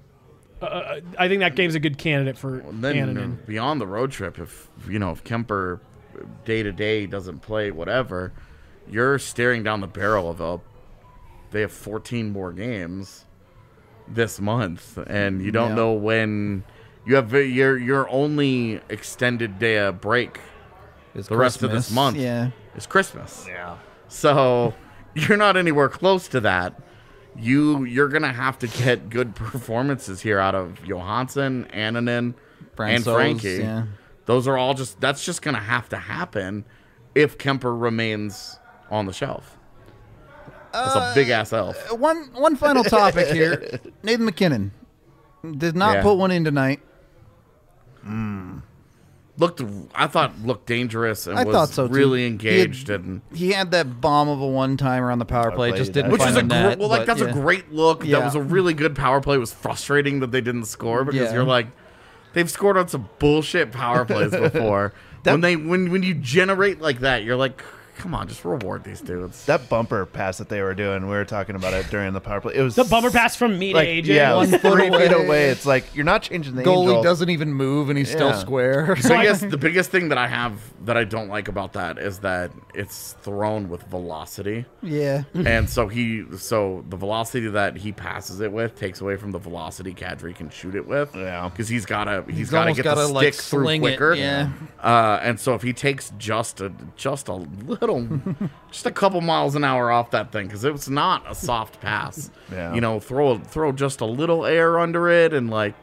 Uh, I think that game's a good candidate for Then Annunen. beyond the road trip, if you know if Kemper day to day doesn't play, whatever, you're staring down the barrel of a. They have fourteen more games this month, and you don't Yeah. know when you have your your only extended day of break. It's The rest of this Christmas. month Yeah. is Christmas. yeah. So you're not anywhere close to that. You you're gonna have to get good performances here out of Johansson, Annunen, and Francouz, Frankie. yeah. Those are all just that's just gonna have to happen if Kemper remains on the shelf. That's a big ass elf. One one final topic here. Nathan McKinnon did not Yeah. put one in tonight. looked, I thought looked dangerous and I was thought so, too. really He engaged. had- and He had that bomb of a one-timer on the power play, play, just he didn't does. Which find is a the gr- net. well, like but, that's yeah. a great look. Yeah. That was a really good power play. It was frustrating that they didn't score because Yeah. you're like, they've scored on some bullshit power plays before. when they when when you generate like that, you're like, come on, just reward these dudes. That bumper pass that they were doing, we were talking about it during the power play. It was The bumper pass from me like to A J. yeah, One one foot three away. feet away. It's like you're not changing the Goalie angel. doesn't even move, and he's still Yeah. square. So I guess the biggest thing that I have that I don't like about that is that it's thrown with velocity. yeah. And so he, so the velocity that he passes it with takes away from the velocity Kadri can shoot it with. Yeah. because he's gotta, he's, He's gotta almost get the gotta, stick like, through sling it, quicker. yeah. Uh, and so if he takes just a, just a little, just a couple miles an hour off that thing, because it was not a soft pass. Yeah. You know, throw throw just a little air under it, and like,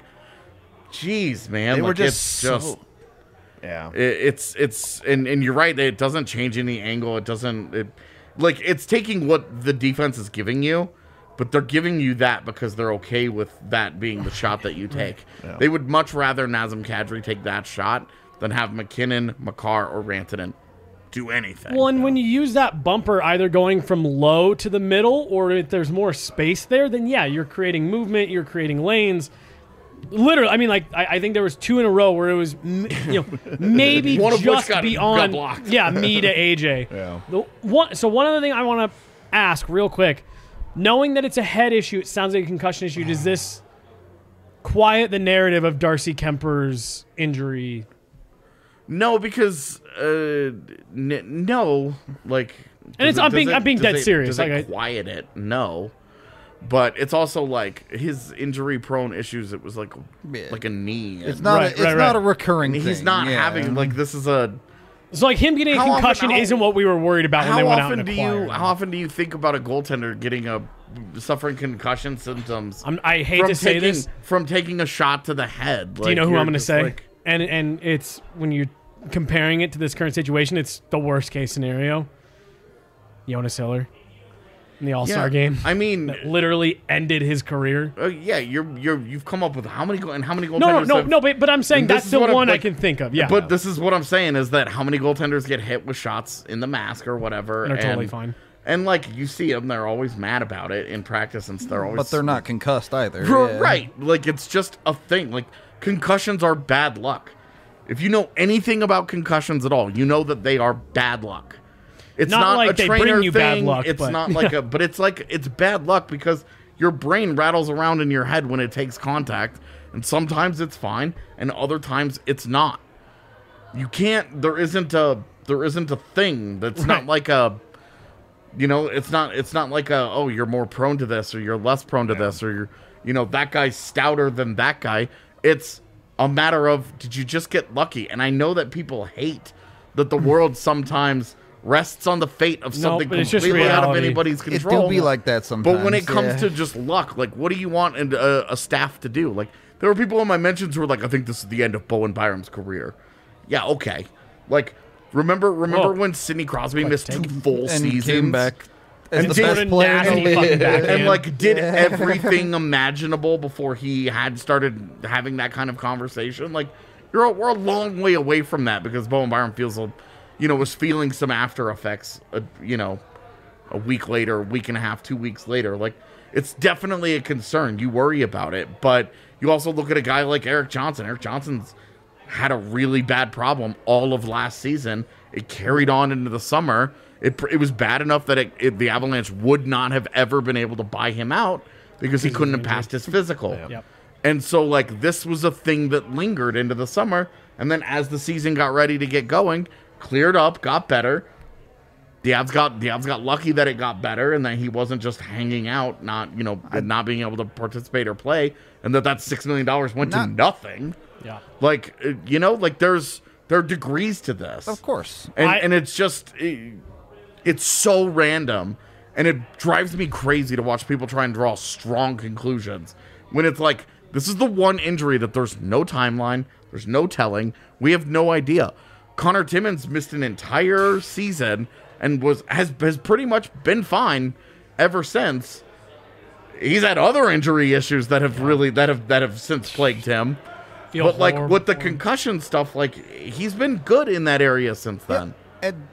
geez, man, They like were just it's so- just. Yeah. It, it's it's and, and you're right. It doesn't change any angle. It doesn't. It, like it's taking what the defense is giving you, but they're giving you that because they're okay with that being the shot that you take. Yeah. They would much rather Nazem Kadri take that shot than have McKinnon, Makar, or Rantanen do anything. Well, and when you use that bumper either going from low to the middle or if there's more space there, then yeah, you're creating movement, you're creating lanes. Literally, I mean, like, I, I think there was two in a row where it was, m- you know, maybe One of which just got- got beyond, blocked. yeah, me to A J. Yeah. The one, so one other thing I want to ask real quick, knowing that it's a head issue, it sounds like a concussion issue, does this quiet the narrative of Darcy Kemper's injury? No, because uh, n- no, like, And it's- does it- I'm being- does it- I'm being does dead it- serious, Does like, it I- quiet it? No, but it's also like his injury-prone issues. It was like Yeah. like a knee. It's and- not. Right, a, it's right, not right. a recurring. and he's thing, not yeah. having like this is a. So, like, him getting a How often- concussion how- isn't what we were worried about when How they went out often and do acquired you? him. How often do you think about a goaltender getting a suffering concussion symptoms? I'm, I hate from to say taking, this. from taking a shot to the head. Do you know who I'm going to say? and and it's when you're comparing it to this current situation, it's the worst case scenario. Jonas Hiller in the All Star game, I mean, that literally ended his career. uh, yeah, you're you're you've come up with how many goal and how many goaltenders? No, no, no, have- no. But, but I'm saying And this that's is the what I'm, one I like- can think of. Yeah, But this is what I'm saying is that how many goaltenders get hit with shots in the mask or whatever, they're and, totally fine. And like you see them, they're always mad about it in practice, and they're always But they're not concussed either. R- yeah. right. Like it's just a thing. Like concussions are bad luck. If you know anything about concussions at all, you know that they are bad luck. It's Not not, like a they bring trainer you thing. bad luck, it's but- not like a, but it's like it's bad luck because your brain rattles around in your head when it takes contact, and sometimes it's fine, and other times it's not. You can't. There isn't a. There isn't a thing that's not Right. like a. You know, it's not. It's not like a. Oh, you're more prone to this, or you're less prone to this, or you're. You know, that guy's stouter than that guy. It's a matter of did you just get lucky? And I know that people hate that the world sometimes rests on the fate of No, something but it's just completely out of reality. anybody's It control. do be like that sometimes. But when it comes yeah. to just luck, like what do you want and uh, a staff to do? Like there were people in my mentions who were like, I think this is the end of Bowen Byram's career. Yeah, okay. Like remember remember Whoa. when Sidney Crosby missed two full and seasons came back as And the did best a player in the nasty fucking league. backhand. and like did everything imaginable before he had started having that kind of conversation. Like you're a, we're a long way away from that because Bowen Byram feels, a, you know, was feeling some after effects. Uh, you know, a week later, a week and a half, two weeks later. Like it's definitely a concern. You worry about it, but you also look at a guy like Eric Johnson. Eric Johnson's had a really bad problem all of last season. It carried on into the summer. It, it was bad enough that it, it, the Avalanche would not have ever been able to buy him out because he couldn't have passed his physical. Yep. And so, like, this was a thing that lingered into the summer. And then as the season got ready to get going, cleared up, got better. The Avs got the Avs got lucky that it got better and that he wasn't just hanging out, not, you know, not being able to participate or play, and that that six million dollars went Not- to nothing. Yeah. Like, uh, you know, like there's there are degrees to this. Of course. And, I- and it's just, it, it's so random. And it drives me crazy to watch people try and draw strong conclusions when it's like, this is the one injury that there's no timeline, there's no telling, we have no idea. Connor Timmins missed an entire season and was has has pretty much been fine ever since. He's had other injury issues that have really that have that have since plagued him. Feel but like horrible with the for him. concussion stuff, like he's been good in that area since then. And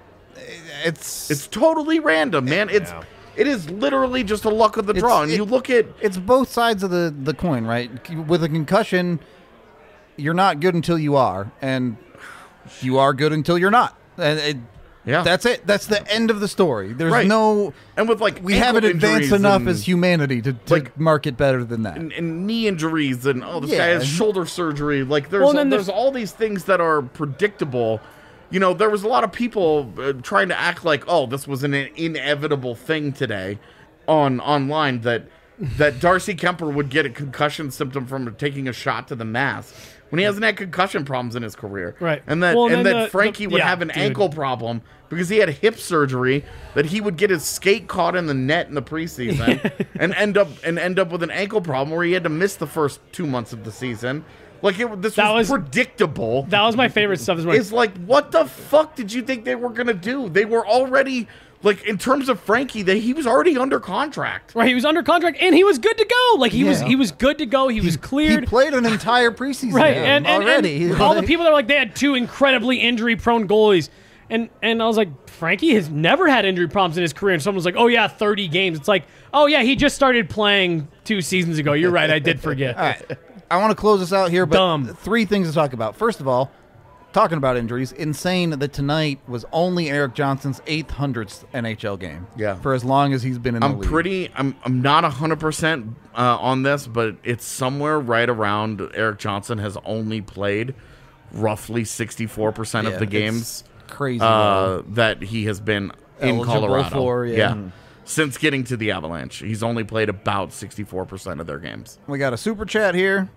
it's It's totally random, man. It's Yeah. it is literally just a luck of the It's- draw. And it- you look at it's both sides of the, the coin, right? With a concussion, you're not good until you are, and you are good until you're not. And it, yeah, that's it. That's the end of the story. There's Right. no. and with like We ankle haven't advanced injuries enough and, as humanity to, to like- mark it better than that. and, and knee injuries and oh, this Yeah. guy has shoulder surgery. Like there's Well, then the- there's all these things that are predictable. You know, there was a lot of people uh, trying to act like, oh, this was an inevitable thing today on online that that Darcy Kemper would get a concussion symptom from taking a shot to the mask when he hasn't had concussion problems in his career. Right. And that Well, and then that the- Frankie the- would yeah, have an dude. ankle problem because he had hip surgery, that he would get his skate caught in the net in the preseason and end up and end up with an ankle problem where he had to miss the first two months of the season. Like it, this That was, was- predictable. That was my favorite stuff. Is when It's like, what the fuck did you think they were gonna do? They were already like, in terms of Frankie, that he was already under contract. right, he was under contract and he was good to go. Like he was, Yeah. he was good to go. He was He cleared. played an entire preseason right, game and, and, already. and all the people that were like they had two incredibly injury-prone goalies, and and I was like, Frankie has never had injury problems in his career. And someone was like, oh yeah, thirty games. It's like, oh yeah, he just started playing two seasons ago. You're right, I did forget. All right. I want to close this out here, but Dumb. three things to talk about. First of all, talking about injuries, insane that tonight was only Eric Johnson's eight hundredth N H L game. Yeah. For as long as he's been in the I'm league. pretty. I'm. I'm not a hundred percent on this, but it's somewhere right around. Eric Johnson has only played roughly sixty-four percent Yeah, of the it's games crazy. uh, that he has been in Eligible Colorado. for, yeah. Since getting to the Avalanche, he's only played about sixty-four percent of their games. We got a super chat here.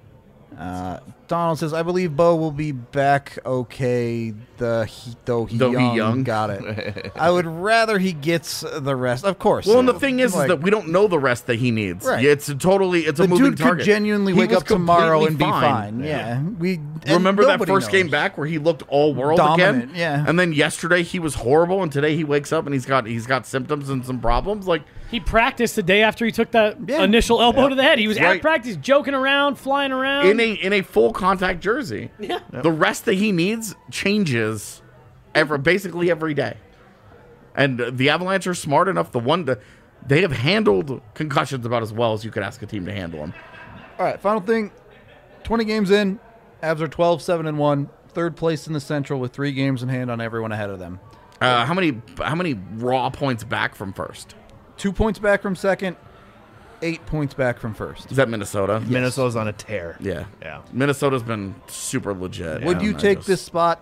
Uh, Donald says, I believe Bo will be back okay, the he, though he Though he young. young. Got it. I would rather he gets the rest. Of course. Well, and the thing is, Like, is that we don't know the rest that he needs. Right. Yeah, it's a totally, it's a the moving dude target. could genuinely He wake was up tomorrow and be completely fine. Yeah. We and Remember that nobody first knows. game back where he looked all world Dominant, again? yeah. And then yesterday he was horrible, and today he wakes up and he's got he's got symptoms and some problems. Like He practiced the day after he took that Yeah. initial elbow to the head. He was Right. at practice, joking around, flying around. in a in a full contact jersey. Yeah. The rest that he needs changes every basically every day. And uh, the Avalanche are smart enough. The one that they have handled concussions about as well as you could ask a team to handle them. All right, final thing. twenty games in. Avs are twelve, seven, and one. Third place in the Central with three games in hand on everyone ahead of them. Uh, how many how many raw points back from first? Two points back from second, eight points back from first. Is that Minnesota? Minnesota's on a tear. Yeah. Yeah. Minnesota's been super legit. Would you And I take just- this spot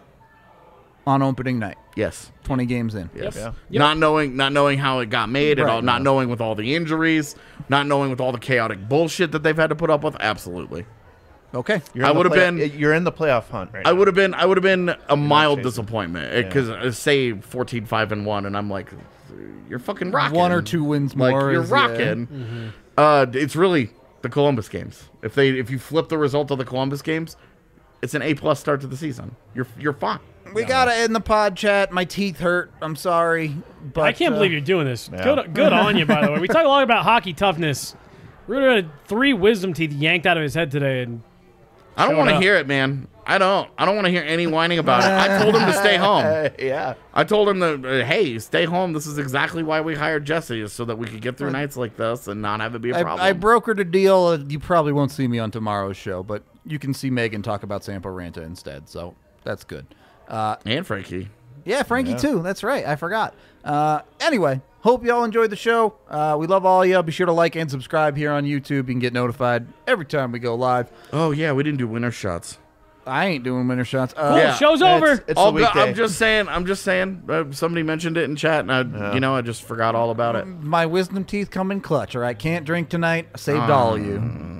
on opening night? Yes. twenty games in. Yes. Yeah. Yep. Not knowing not knowing how it got made at Right, all, not no. knowing with all the injuries, not knowing with all the chaotic bullshit that they've had to put up with, absolutely. Okay. You're I in the would've play- been- You're in the playoff hunt right I now. would have been I would have been a mild chasing. disappointment because uh, say fourteen five and one and I'm like you're fucking rocking. One or two wins like more you're is- yeah. rocking. Uh it's really the Columbus games. If they if you flip the result of the Columbus games, it's an A plus start to the season. You're you're fine. We got to end the pod chat. My teeth hurt. I'm sorry. But, I can't uh, believe you're doing this. Yeah. Good, good on you, by the way. We talk a lot about hockey toughness. Ruder had three wisdom teeth yanked out of his head today, and I don't Showing want to up. hear it, man. I don't. I don't want to hear any whining about it. I told him to stay home. yeah. I told him that, uh, hey, stay home. This is exactly why we hired Jesse, is so that we could get through nights like this and not have it be a problem. I, I brokered a deal. Uh, You probably won't see me on tomorrow's show, but you can see Megan talk about Sampo Ranta instead, so that's good. Uh, and Frankie. yeah, Frankie too. That's right. I forgot. Uh, anyway, hope y'all enjoyed the show. Uh, we love all y'all. Be sure to like and subscribe here on YouTube. You can get notified every time we go live. Oh yeah, we didn't do winner shots. I ain't doing winter shots. cool, Uh, Yeah. show's It's- over. It's, All a go- weekday. I'm just saying. I'm just saying. Uh, somebody mentioned it in chat, and I, you know, I just forgot all about it. My wisdom teeth come in clutch. All right, can't drink tonight. I saved all of you.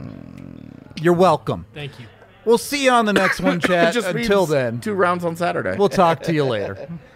You're welcome. Thank you. We'll see you on the next one, It chat. just Until means then, two rounds on Saturday. we'll talk to you later.